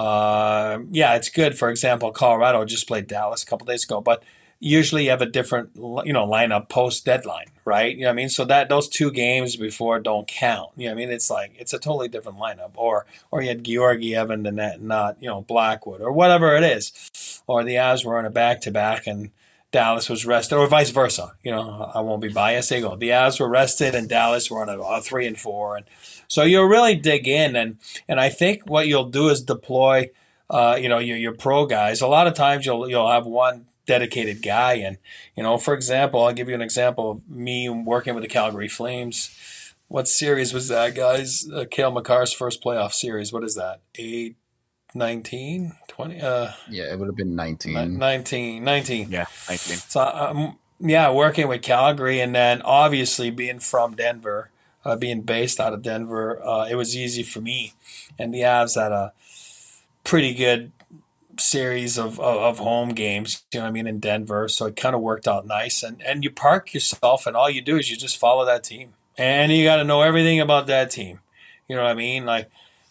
Uh, yeah, it's good. For example, Colorado just played Dallas a couple days ago, but usually you have a different, you know, lineup post deadline, right? You know what I mean? So that those two games before don't count. You know what I mean? It's like, it's a totally different lineup. Or, or you had Georgiev and the net, not, you know, Blackwood or whatever it is. Or the Avs were on a back-to-back and Dallas was rested, or vice versa. You know, I won't be biased. They go, the Avs were rested and Dallas were on a, a three and four. And so you'll really dig in. And, and I think what you'll do is deploy, uh, you know, your, your pro guys. A lot of times you'll, you'll have one dedicated guy. And, you know, for example, I'll give you an example of me working with the Calgary Flames. What series was that, guys? Uh, Cale Makar's first playoff series. What is that? Eight, nineteen, twenty? Uh, yeah, it would have been nineteen. nineteen, nineteen. Yeah, nineteen. So, um, yeah, working with Calgary and then obviously being from Denver, uh, being based out of Denver, uh, it was easy for me. And the Avs had a pretty good series of, of, of home games, you know what I mean, in Denver. So it kind of worked out nice. And, and you park yourself and all you do is you just follow that team. And you got to know everything about that team. You know what I mean? Like,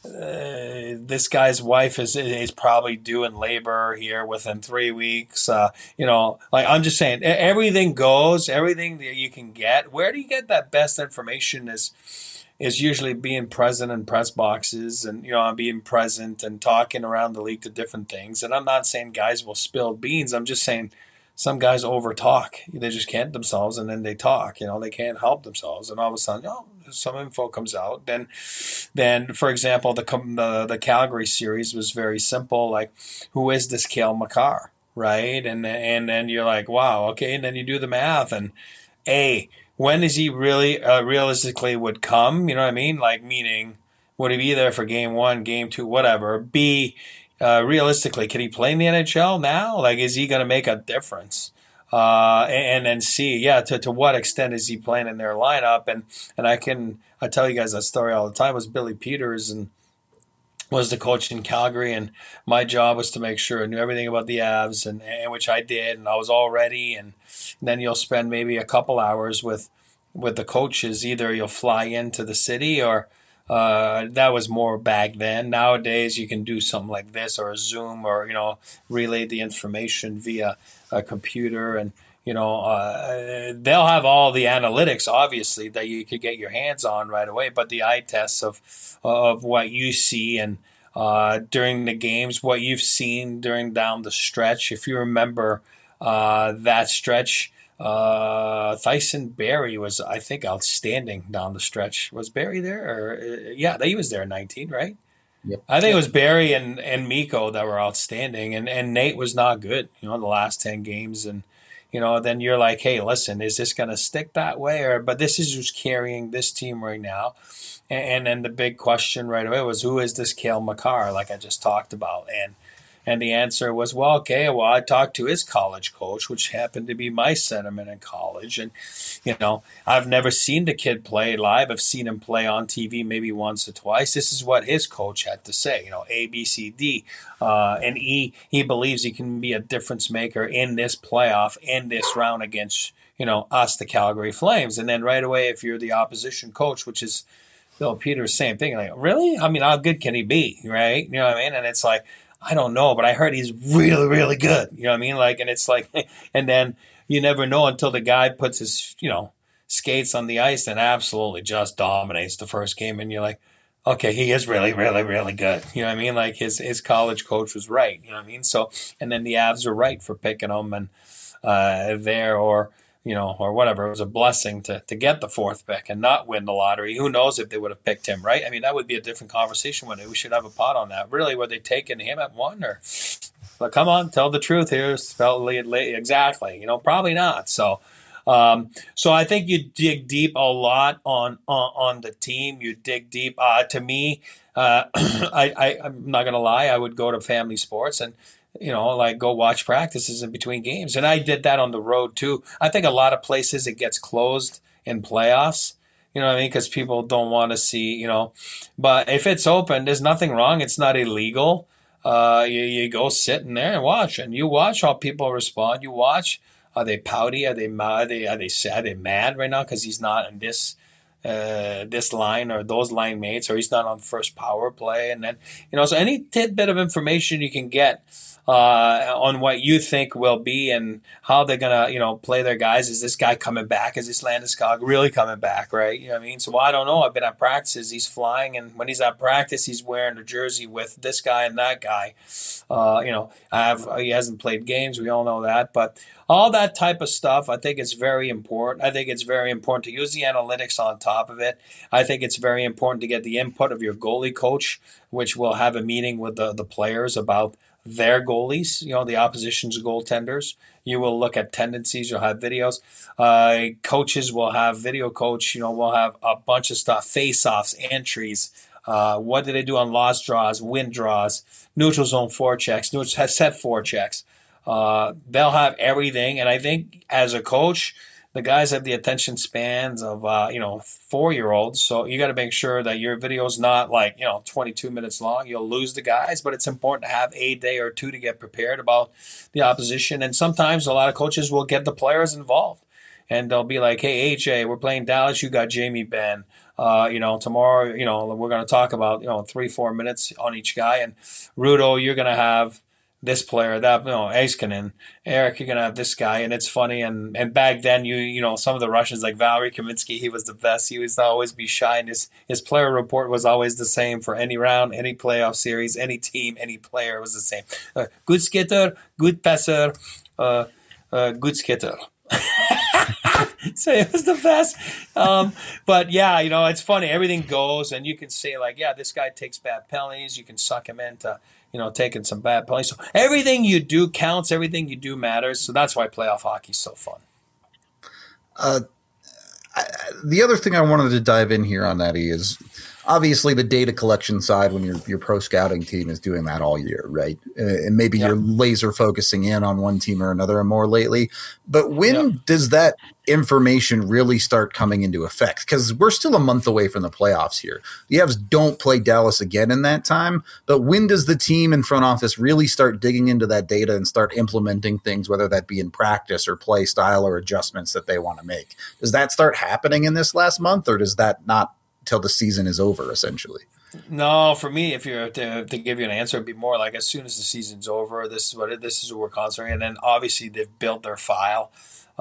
Uh, this guy's wife is is probably due in labor here within three weeks. Uh, you know, like I'm just saying, everything goes, everything that you can get. Where do you get that best information? Is is usually being present in press boxes and you know being present and talking around the league to different things. And I'm not saying guys will spill beans. I'm just saying some guys over talk. They just can't themselves, and then they talk. You know, they can't help themselves, and all of a sudden, oh, some info comes out. Then, then for example, the the, the Calgary series was very simple. Like, who is this Cale Makar, right? And and then you're like, wow, okay. And then you do the math, and A, when is he really uh, realistically would come? You know what I mean? Like, meaning, would he be there for game one, game two, whatever? B, uh, realistically, can he play in the N H L now? Like, is he going to make a difference? Uh, and then C, yeah, to, to what extent is he playing in their lineup? And and I can I tell you guys that story all the time. It was Billy Peters and was the coach in Calgary, and my job was to make sure I knew everything about the Avs, and, and which I did, and I was all ready. And then you'll spend maybe a couple hours with with the coaches. Either you'll fly into the city, or uh, that was more back then. Nowadays, you can do something like this, or a Zoom, or, you know, relay the information via a computer, and you know uh, they'll have all the analytics, obviously, that you could get your hands on right away. But the eye tests of of what you see and uh, during the games, what you've seen during down the stretch. If you remember uh, that stretch, uh, Tyson Barrie was, I think, outstanding down the stretch. Was Barrie there? Or uh, yeah, he was there in nineteen, right? Yep. I think it was Barrie and, and Mikko that were outstanding, and, and Nate was not good, you know, in the last ten games. And, you know, then you're like, hey, listen, is this going to stick that way? Or, but this is who's carrying this team right now. And, and then the big question right away was, who is this Cale Makar, like I just talked about? And And the answer was, well, okay, well, I talked to his college coach, which happened to be my centerman in college. And, you know, I've never seen the kid play live. I've seen him play on T V maybe once or twice. This is what his coach had to say, you know, A, B, C, D. Uh, and E, he believes he can be a difference maker in this playoff, in this round against, you know, us, the Calgary Flames. And then right away, if you're the opposition coach, which is Bill Peters, same thing. Like, really? I mean, how good can he be, right? You know what I mean? And it's like, I don't know, but I heard he's really, really good. You know what I mean? Like, and it's like, and then you never know until the guy puts his, you know, skates on the ice and absolutely just dominates the first game. And you're like, okay, he is really, really, really good. You know what I mean? Like, his, his college coach was right. You know what I mean? So, and then the Avs are right for picking him and uh, there, or, you know, or whatever. It was a blessing to to get the fourth pick and not win the lottery. Who knows if they would have picked him, right? I mean, that would be a different conversation one day. We should have a pot on that. Really, were they taking him at one? Or, but come on, tell the truth here. Spell exactly. You know, probably not. So, um, so I think you dig deep a lot on on, on the team. You dig deep. Uh, to me, uh, I, I I'm not gonna lie. I would go to Family Sports and, you know, like, go watch practices in between games. And I did that on the road too. I think a lot of places it gets closed in playoffs, you know what I mean? Because people don't want to see, you know. But if it's open, there's nothing wrong. It's not illegal. Uh, you, you go sit in there and watch. And you watch how people respond. You watch, are they pouty? Are they mad? Are they, are they sad? Are they mad right now because he's not in this uh, this line or those line mates, or he's not on first power play? And then, you know, so any tidbit of information you can get Uh, on what you think will be and how they're gonna, you know, play their guys. Is this guy coming back? Is this Landeskog really coming back? Right? You know what I mean? So, well, I don't know. I've been at practices. He's flying, and when he's at practice, he's wearing a jersey with this guy and that guy. Uh, you know, I have he hasn't played games. We all know that, but all that type of stuff, I think it's very important. I think it's very important to use the analytics on top of it. I think it's very important to get the input of your goalie coach, which will have a meeting with the, the players about their goalies, you know, the opposition's goaltenders. You will look at tendencies. You'll have videos. Uh, coaches will have video coach. You know, we'll have a bunch of stuff, face-offs, entries. Uh, what did they do on lost draws, win draws, neutral zone forechecks, neutral set forechecks. Uh, they'll have everything. And I think as a coach, the guys have the attention spans of, uh, you know, four-year-olds. So you got to make sure that your video is not like, you know, twenty-two minutes long. You'll lose the guys, but it's important to have a day or two to get prepared about the opposition. And sometimes a lot of coaches will get the players involved. And they'll be like, hey, A J, we're playing Dallas. You got Jamie Benn. Uh, you know, tomorrow, you know, we're going to talk about, you know, three, four minutes on each guy. And Rudo, you're going to have this player, that, you know, Heiskanen. Eric, you're going to have this guy. And it's funny. And, and back then, you you know, some of the Russians, like Valery Kaminsky, he was the best. He used to always be shy. And his, his player report was always the same for any round, any playoff series, any team, any player was the same. Uh, good skater, good passer, uh, uh, good skater. So it was the best. Um, but yeah, you know, it's funny. Everything goes, and you can say like, yeah, this guy takes bad penalties. You can suck him into, you know, taking some bad penalties. So everything you do counts. Everything you do matters. So that's why playoff hockey is so fun. Uh, I, the other thing I wanted to dive in here on that is obviously the data collection side when your your pro scouting team is doing that all year, right? Uh, and maybe yep. you're laser focusing in on one team or another and more lately. But when yep. does that information really start coming into effect? Because we're still a month away from the playoffs here. The Avs don't play Dallas again in that time. But when does the team and front office really start digging into that data and start implementing things, whether that be in practice or play style or adjustments that they want to make? Does that start happening in this last month, or does that not till the season is over, essentially? No, for me, if you're to, to give you an answer, it'd be more like as soon as the season's over, this is what it, this is what we're concentrating. And then obviously they've built their file. Uh,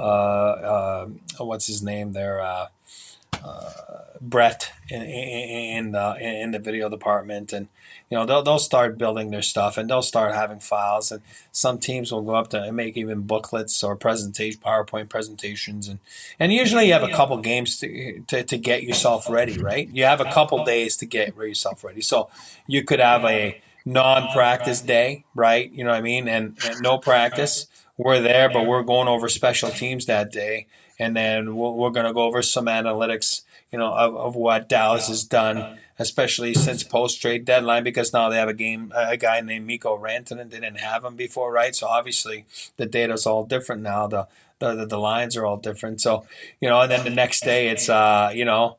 uh, what's his name there? Uh, uh, Brett in in the in the video department, and you know they'll they'll start building their stuff, and they'll start having files. And some teams will go up to and make even booklets or presentation, PowerPoint presentations, and and usually you have a couple games to, to to get yourself ready, right? You have a couple days to get yourself ready. So you could have a non-practice day, right? You know what I mean? And, and no practice. We're there, but we're going over special teams that day, and then we're, we're going to go over some analytics, you know, of, of what Dallas has done, especially since post-trade deadline, because now they have a game, a guy named Mikko Rantanen. They didn't have him before, right? So obviously the data's all different now. The the the lines are all different. So, you know, and then the next day it's, uh, you know,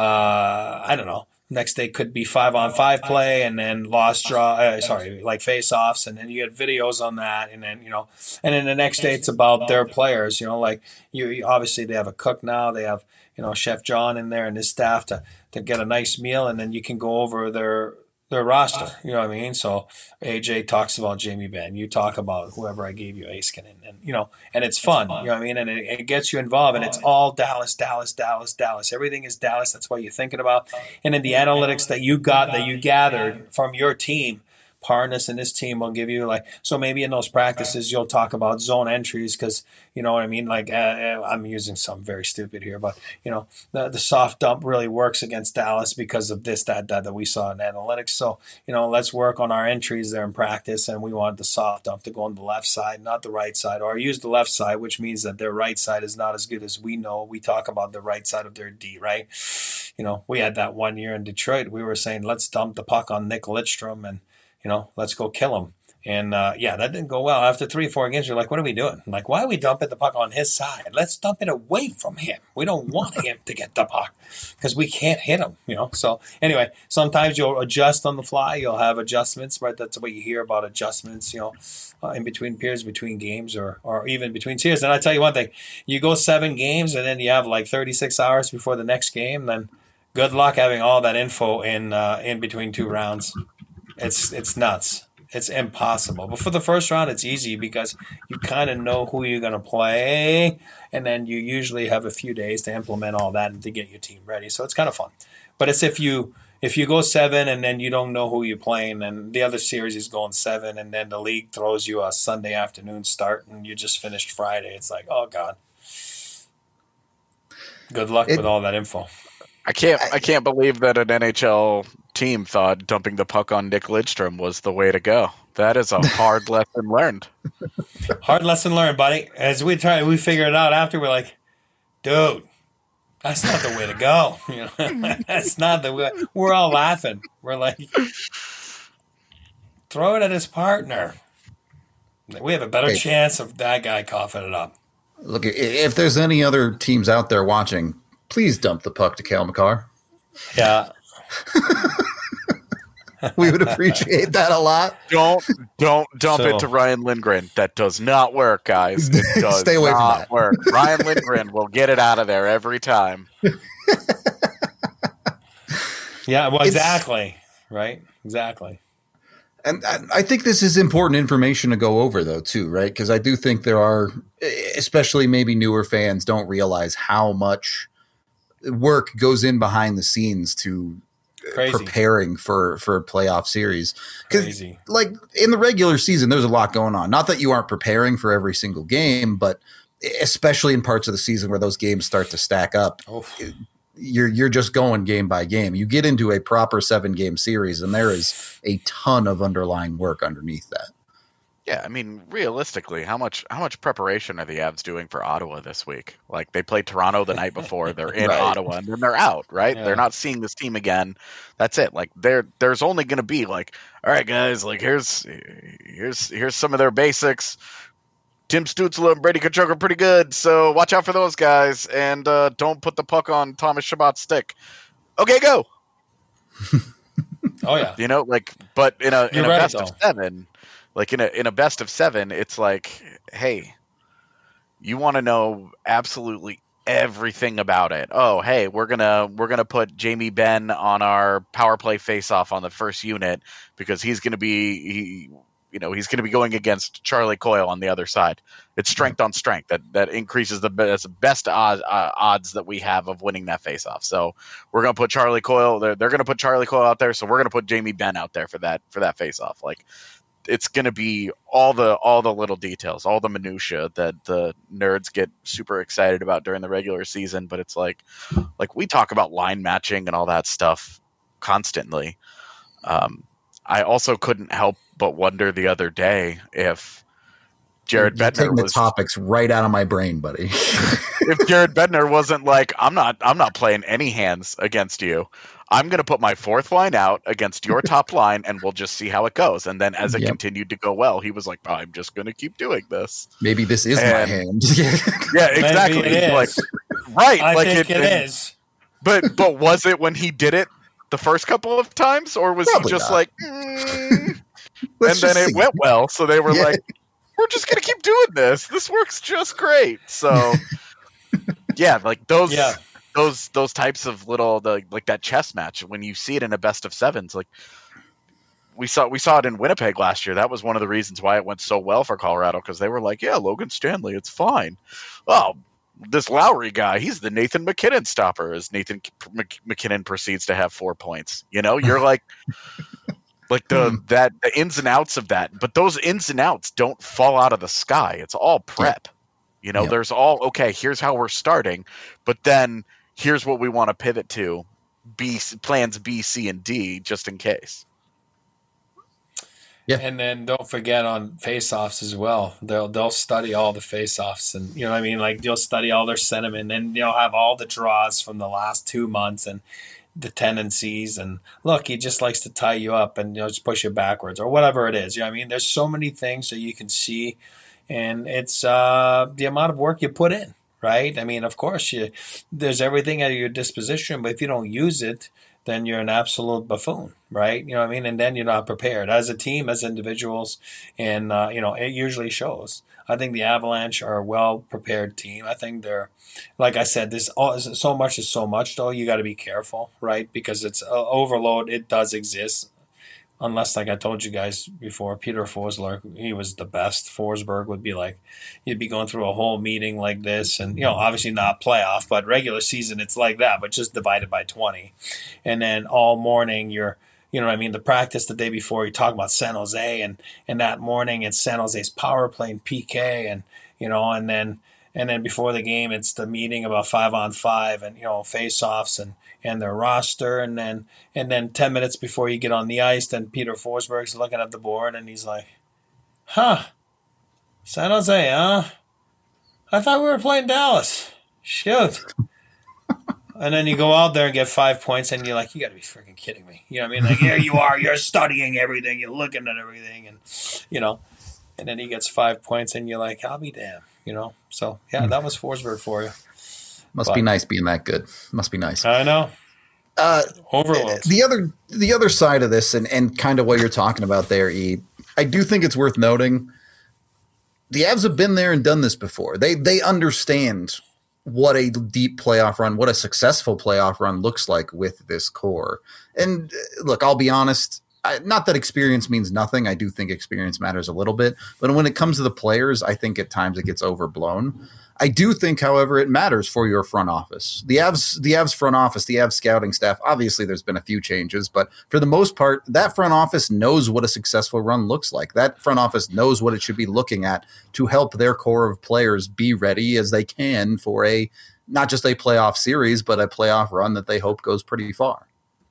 uh, I don't know. Next day could be five on five play, and then lost draw. Uh, sorry, like face offs, and then you get videos on that, and then you know, and then the next day it's about their players. You know, like you, you obviously they have a cook now. They have you know Chef John in there and his staff to to get a nice meal, and then you can go over their their roster. You know what I mean? So A J talks about Jamie Benn. You talk about whoever I gave you, Aiskin, and, and you know, and it's fun. You know what I mean? And it, it gets you involved, and it's all Dallas, Dallas, Dallas, Dallas. Everything is Dallas. That's what you're thinking about. And then the analytics that you got, that you gathered from your team, Parnas and his team will give you like, so maybe in those practices you'll talk about zone entries because, you know what I mean? Like uh, I'm using some very stupid here, but you know, the, the soft dump really works against Dallas because of this, that, that, that we saw in analytics. So, you know, let's work on our entries there in practice. And we want the soft dump to go on the left side, not the right side, or use the left side, which means that their right side is not as good as we know. We talk about the right side of their D, right? You know, we had that one year in Detroit. We were saying, let's dump the puck on Nick Lidstrom and, you know, let's go kill him. And, uh, yeah, that didn't go well. After three or four games, you're like, what are we doing? I'm like, why are we dumping the puck on his side? Let's dump it away from him. We don't want him to get the puck because we can't hit him, you know. So, anyway, sometimes you'll adjust on the fly. You'll have adjustments, right? That's what you hear about adjustments, you know, uh, in between periods, between games, or or even between series. And I tell you one thing. You go seven games and then you have like thirty-six hours before the next game, then good luck having all that info in uh, in between two rounds. It's it's nuts. It's impossible. But for the first round, it's easy because you kind of know who you're going to play, and then you usually have a few days to implement all that and to get your team ready. So it's kind of fun. But it's if you if you go seven and then you don't know who you're playing, and the other series is going seven, and then the league throws you a Sunday afternoon start, and you just finished Friday. It's like, oh God. Good luck it, with all that info. I can't I can't believe that an N H L team thought dumping the puck on Nick Lidstrom was the way to go. That is a hard lesson learned. Hard lesson learned, buddy. As we try, we figure it out after. We're like, dude, that's not the way to go. You know, that's not the way. We're all laughing. We're like, throw it at his partner. We have a better hey. chance of that guy coughing it up. Look, if there's any other teams out there watching, please dump the puck to Cale Makar. Yeah. We would appreciate that a lot. Don't don't dump so, it to Ryan Lindgren. That does not work, guys. It does Stay away not from that. work. Ryan Lindgren will get it out of there every time. Yeah, well, exactly. It's, right? Exactly. And I think this is important information to go over, though, too, right? Because I do think there are, especially maybe newer fans, don't realize how much work goes in behind the scenes to Crazy. preparing for, for a playoff series. Crazy. Like in the regular season, there's a lot going on. Not that you aren't preparing for every single game, but especially in parts of the season where those games start to stack up. Oof. You're you're just going game by game. You get into a proper seven game series, and there is a ton of underlying work underneath that. Yeah, I mean, realistically, how much how much preparation are the Avs doing for Ottawa this week? Like, they played Toronto the night before, they're in Right. Ottawa, and then they're out, right? Yeah. They're not seeing this team again. That's it. Like, there there's only going to be like, all right, guys, like here's here's here's some of their basics. Tim Stützle and Brady Tkachuk are pretty good, so watch out for those guys, and uh, don't put the puck on Thomas Chabot's stick. Okay, go. Oh yeah. You know, like, but in a You're in a right, best though. of seven, like in a in a best of seven, it's like, hey, you want to know absolutely everything about it. Oh, hey, we're gonna we're gonna put Jamie Benn on our power play faceoff on the first unit because he's gonna be he, you know, he's gonna be going against Charlie Coyle on the other side. It's strength on strength that that increases the best best odds, uh, odds that we have of winning that faceoff. So we're gonna put Charlie Coyle. They're they're gonna put Charlie Coyle out there. So we're gonna put Jamie Benn out there for that for that faceoff. Like, it's going to be all the all the little details, all the minutia that the nerds get super excited about during the regular season. But it's like, like we talk about line matching and all that stuff constantly. Um, I also couldn't help but wonder the other day if Jared You're Bednar taking the was topics right out of my brain, buddy. if Jared Bednar wasn't like, I'm not I'm not playing any hands against you. I'm going to put my fourth line out against your top line, and we'll just see how it goes. And then as it Yep. continued to go well, he was like, I'm just going to keep doing this. Maybe this is my And- hand. Yeah, exactly. Maybe it Like, is. right. I like think it and- is. But but was it when he did it the first couple of times, or was Probably he just not. like, mm, and Let's then just it see. went well? So they were Yeah. like, we're just going to keep doing this. This works just great. So yeah, like those. Yeah. Those those types of little the like that chess match when you see it in a best of sevens, like we saw we saw it in Winnipeg last year. That was one of the reasons why it went so well for Colorado, because they were like, yeah, Logan Stanley, it's fine. Oh, this Lowry guy, he's the Nathan McKinnon stopper. As Nathan Mc- McKinnon proceeds to have four points, you know, you're like, like the that the ins and outs of that. But those ins and outs don't fall out of the sky. It's all prep. You know, Yep. there's all okay. Here's how we're starting, but then here's what we want to pivot to, B plans B, C, and D, just in case. Yeah. And then don't forget on face-offs as well. They'll they'll study all the face-offs, and you know what I mean. Like you'll study all their sentiment, and you'll have all the draws from the last two months and the tendencies. And look, he just likes to tie you up and you know just push you backwards or whatever it is. You know what I mean? There's so many things that you can see, and it's uh, the amount of work you put in. Right? I mean, of course, you there's everything at your disposition, but if you don't use it, then you're an absolute buffoon, right? You know what I mean? And then you're not prepared as a team, as individuals, and uh, you know it usually shows. I think the Avalanche are a well-prepared team. I think they're, like I said, this all so much is so much though. You got to be careful, right? Because it's uh, overload. It does exist. Unless, like I told you guys before, Peter Forsberg, he was the best. Forsberg would be like, you'd be going through a whole meeting like this, and you know, obviously not playoff, but regular season, it's like that, but just divided by twenty. And then all morning, you're, you know what I mean, the practice the day before, you talk about San Jose, and and that morning it's San Jose's power play and P K, and you know, and then and then before the game, it's the meeting about five on five, and you know, face-offs and. and their roster, and then and then ten minutes before you get on the ice, then Peter Forsberg's looking at the board, and he's like, huh, San Jose, huh? I thought we were playing Dallas. Shoot. And then you go out there and get five points, and you're like, you got to be freaking kidding me. You know what I mean? Like, here you are, you're studying everything, you're looking at everything, and, you know, and then he gets five points, and you're like, I'll be damned, you know? So, yeah, that was Forsberg for you. Must But- be nice being that good. Must be nice. I know. Uh, Overload. the other the other side of this, and, and kind of what you're talking about there, E, I do think it's worth noting the Avs have been there and done this before. They they understand what a deep playoff run, what a successful playoff run looks like with this core. And uh, look, I'll be honest, I, not that experience means nothing. I do think experience matters a little bit. But when it comes to the players, I think at times it gets overblown. I do think, however, it matters for your front office. The Avs, the Avs front office, the Avs scouting staff, obviously there's been a few changes, but for the most part, that front office knows what a successful run looks like. That front office knows what it should be looking at to help their core of players be ready as they can for a not just a playoff series, but a playoff run that they hope goes pretty far.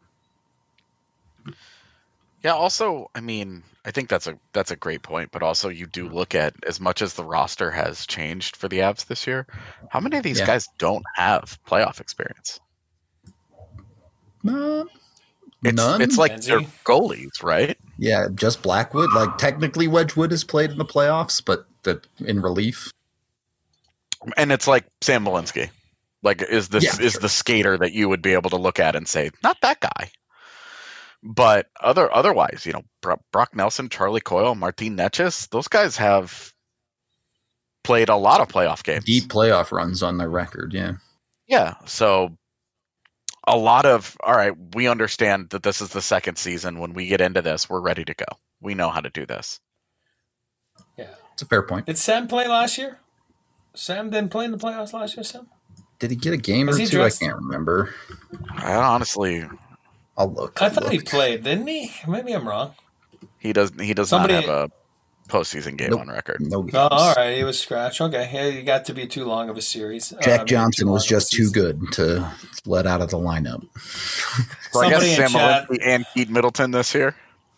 Yeah, also, I mean, I think that's a that's a great point, but also you do look at, as much as the roster has changed for the Avs this year, how many of these yeah. guys don't have playoff experience? Uh, it's, none. It's like they're goalies, right? Yeah, just Blackwood. Like, technically Wedgwood has played in the playoffs, but the, in relief. And it's like Sam Malinsky. Like, is this yeah, is sure. the skater that you would be able to look at and say, not that guy. But other otherwise, you know, Brock Nelson, Charlie Coyle, Martin Necas, those guys have played a lot of playoff games. Deep playoff runs on their record, yeah. Yeah, so a lot of, all right, we understand that this is the second season. When we get into this, we're ready to go. We know how to do this. Yeah. It's a fair point. Did Sam play last year? Sam didn't play in the playoffs last year, Sam? Did he get a game Was or he two? dressed? I can't remember. I honestly... I'll look. I'll I thought look. he played, didn't he? Maybe I'm wrong. He does. He does Somebody, not have a postseason game nope, on record. No games. Oh, all right, he was scratched. Okay, yeah, he got to be too long of a series. Jack uh, Johnson was just too season. good to let out of the lineup. So I Somebody guess in Sam chat, Malinsky and Keith Middleton this year.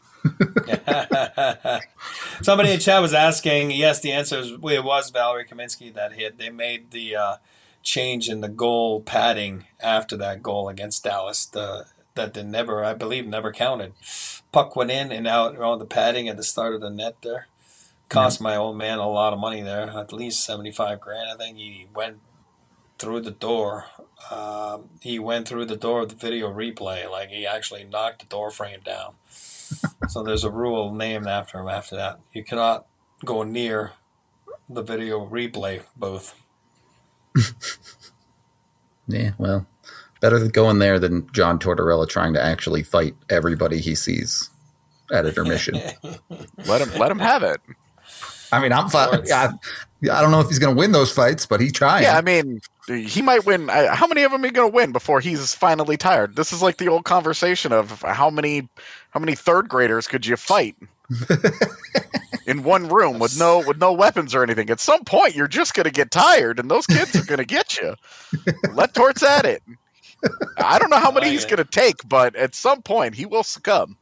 Somebody in chat was asking. Yes, the answer is it was Valerie Kaminsky that hit. They made the uh, change in the goal padding after that goal against Dallas. The that they never, I believe, never counted. Puck went in and out around the padding at the start of the net there. Cost yeah. my old man a lot of money there, at least seventy-five grand. I think he went through the door. Um, he went through the door of the video replay. Like, he actually knocked the door frame down. So there's a rule named after him after that. You cannot go near the video replay booth. Yeah, well, better than going there than John Tortorella trying to actually fight everybody he sees at intermission. let him let him have it. I mean, I'm fine. I, I don't know if he's going to win those fights, but he's trying. Yeah, I mean, he might win. How many of them are going to win before he's finally tired? This is like the old conversation of how many how many third graders could you fight in one room with no with no weapons or anything? At some point, you're just going to get tired, and those kids are going to get you. Let Torts at it. I don't know how many he's going to take, but at some point, he will succumb.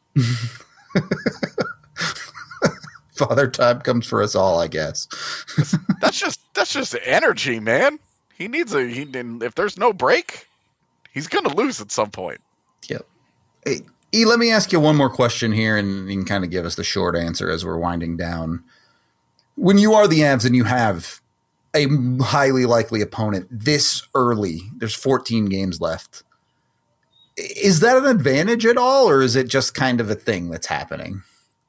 Father time comes for us all, I guess. that's just that's just energy, man. He needs a he. If there's no break, he's going to lose at some point. Yep. Hey, E, let me ask you one more question here, and you can kind of give us the short answer as we're winding down. When you are the Avs and you have a highly likely opponent this early, there's fourteen games left. Is that an advantage at all, or is it just kind of a thing that's happening?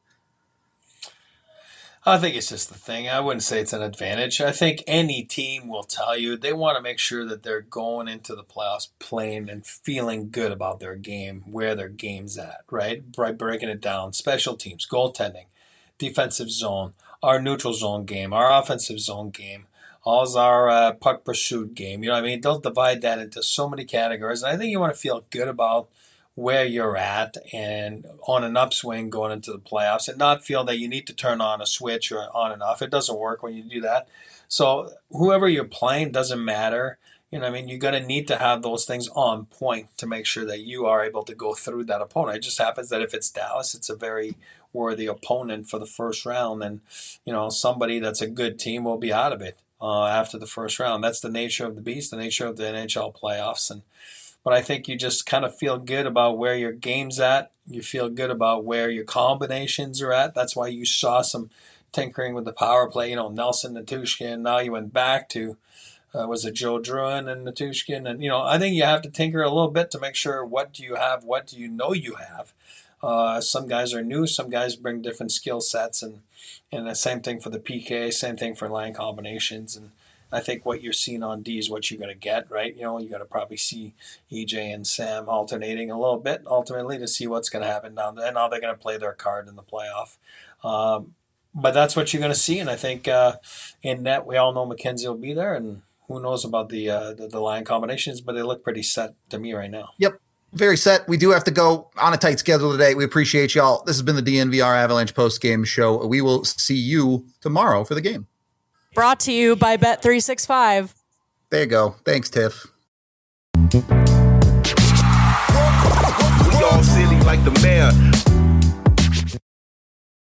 I think it's just the thing. I wouldn't say it's an advantage. I think any team will tell you they want to make sure that they're going into the playoffs playing and feeling good about their game, where their game's at, right? By breaking it down. Special teams, goaltending, defensive zone, our neutral zone game, our offensive zone game, all's our uh, puck pursuit game. You know what I mean? They'll divide that into so many categories. And I think you want to feel good about where you're at and on an upswing going into the playoffs, and not feel that you need to turn on a switch or on and off. It doesn't work when you do that. So whoever you're playing doesn't matter. You know what I mean? You're going to need to have those things on point to make sure that you are able to go through that opponent. It just happens that if it's Dallas, it's a very worthy opponent for the first round. And, you know, somebody that's a good team will be out of it uh, after the first round. That's the nature of the beast, the nature of the N H L playoffs. And But I think you just kind of feel good about where your game's at. You feel good about where your combinations are at. That's why you saw some tinkering with the power play. You know, Nelson, Natushkin. Now you went back to, uh, was it Joe Druin and Natushkin? And, you know, I think you have to tinker a little bit to make sure what do you have, what do you know you have. Uh, some guys are new. Some guys bring different skill sets. And, and the same thing for the P K, same thing for line combinations. And I think what you're seeing on D is what you're going to get, right? You know, you're going to probably see E J and Sam alternating a little bit ultimately to see what's going to happen down there and how they're going to play their card in the playoff. Um, but that's what you're going to see. And I think uh, in net, we all know McKenzie will be there, and who knows about the, uh, the the line combinations, but they look pretty set to me right now. Yep. Very set. We do have to go on a tight schedule today. We appreciate y'all. This has been the D N V R Avalanche post-game show. We will see you tomorrow for the game. Brought to you by Bet three sixty-five. There you go. Thanks, Tiff. We all silly like the mayor.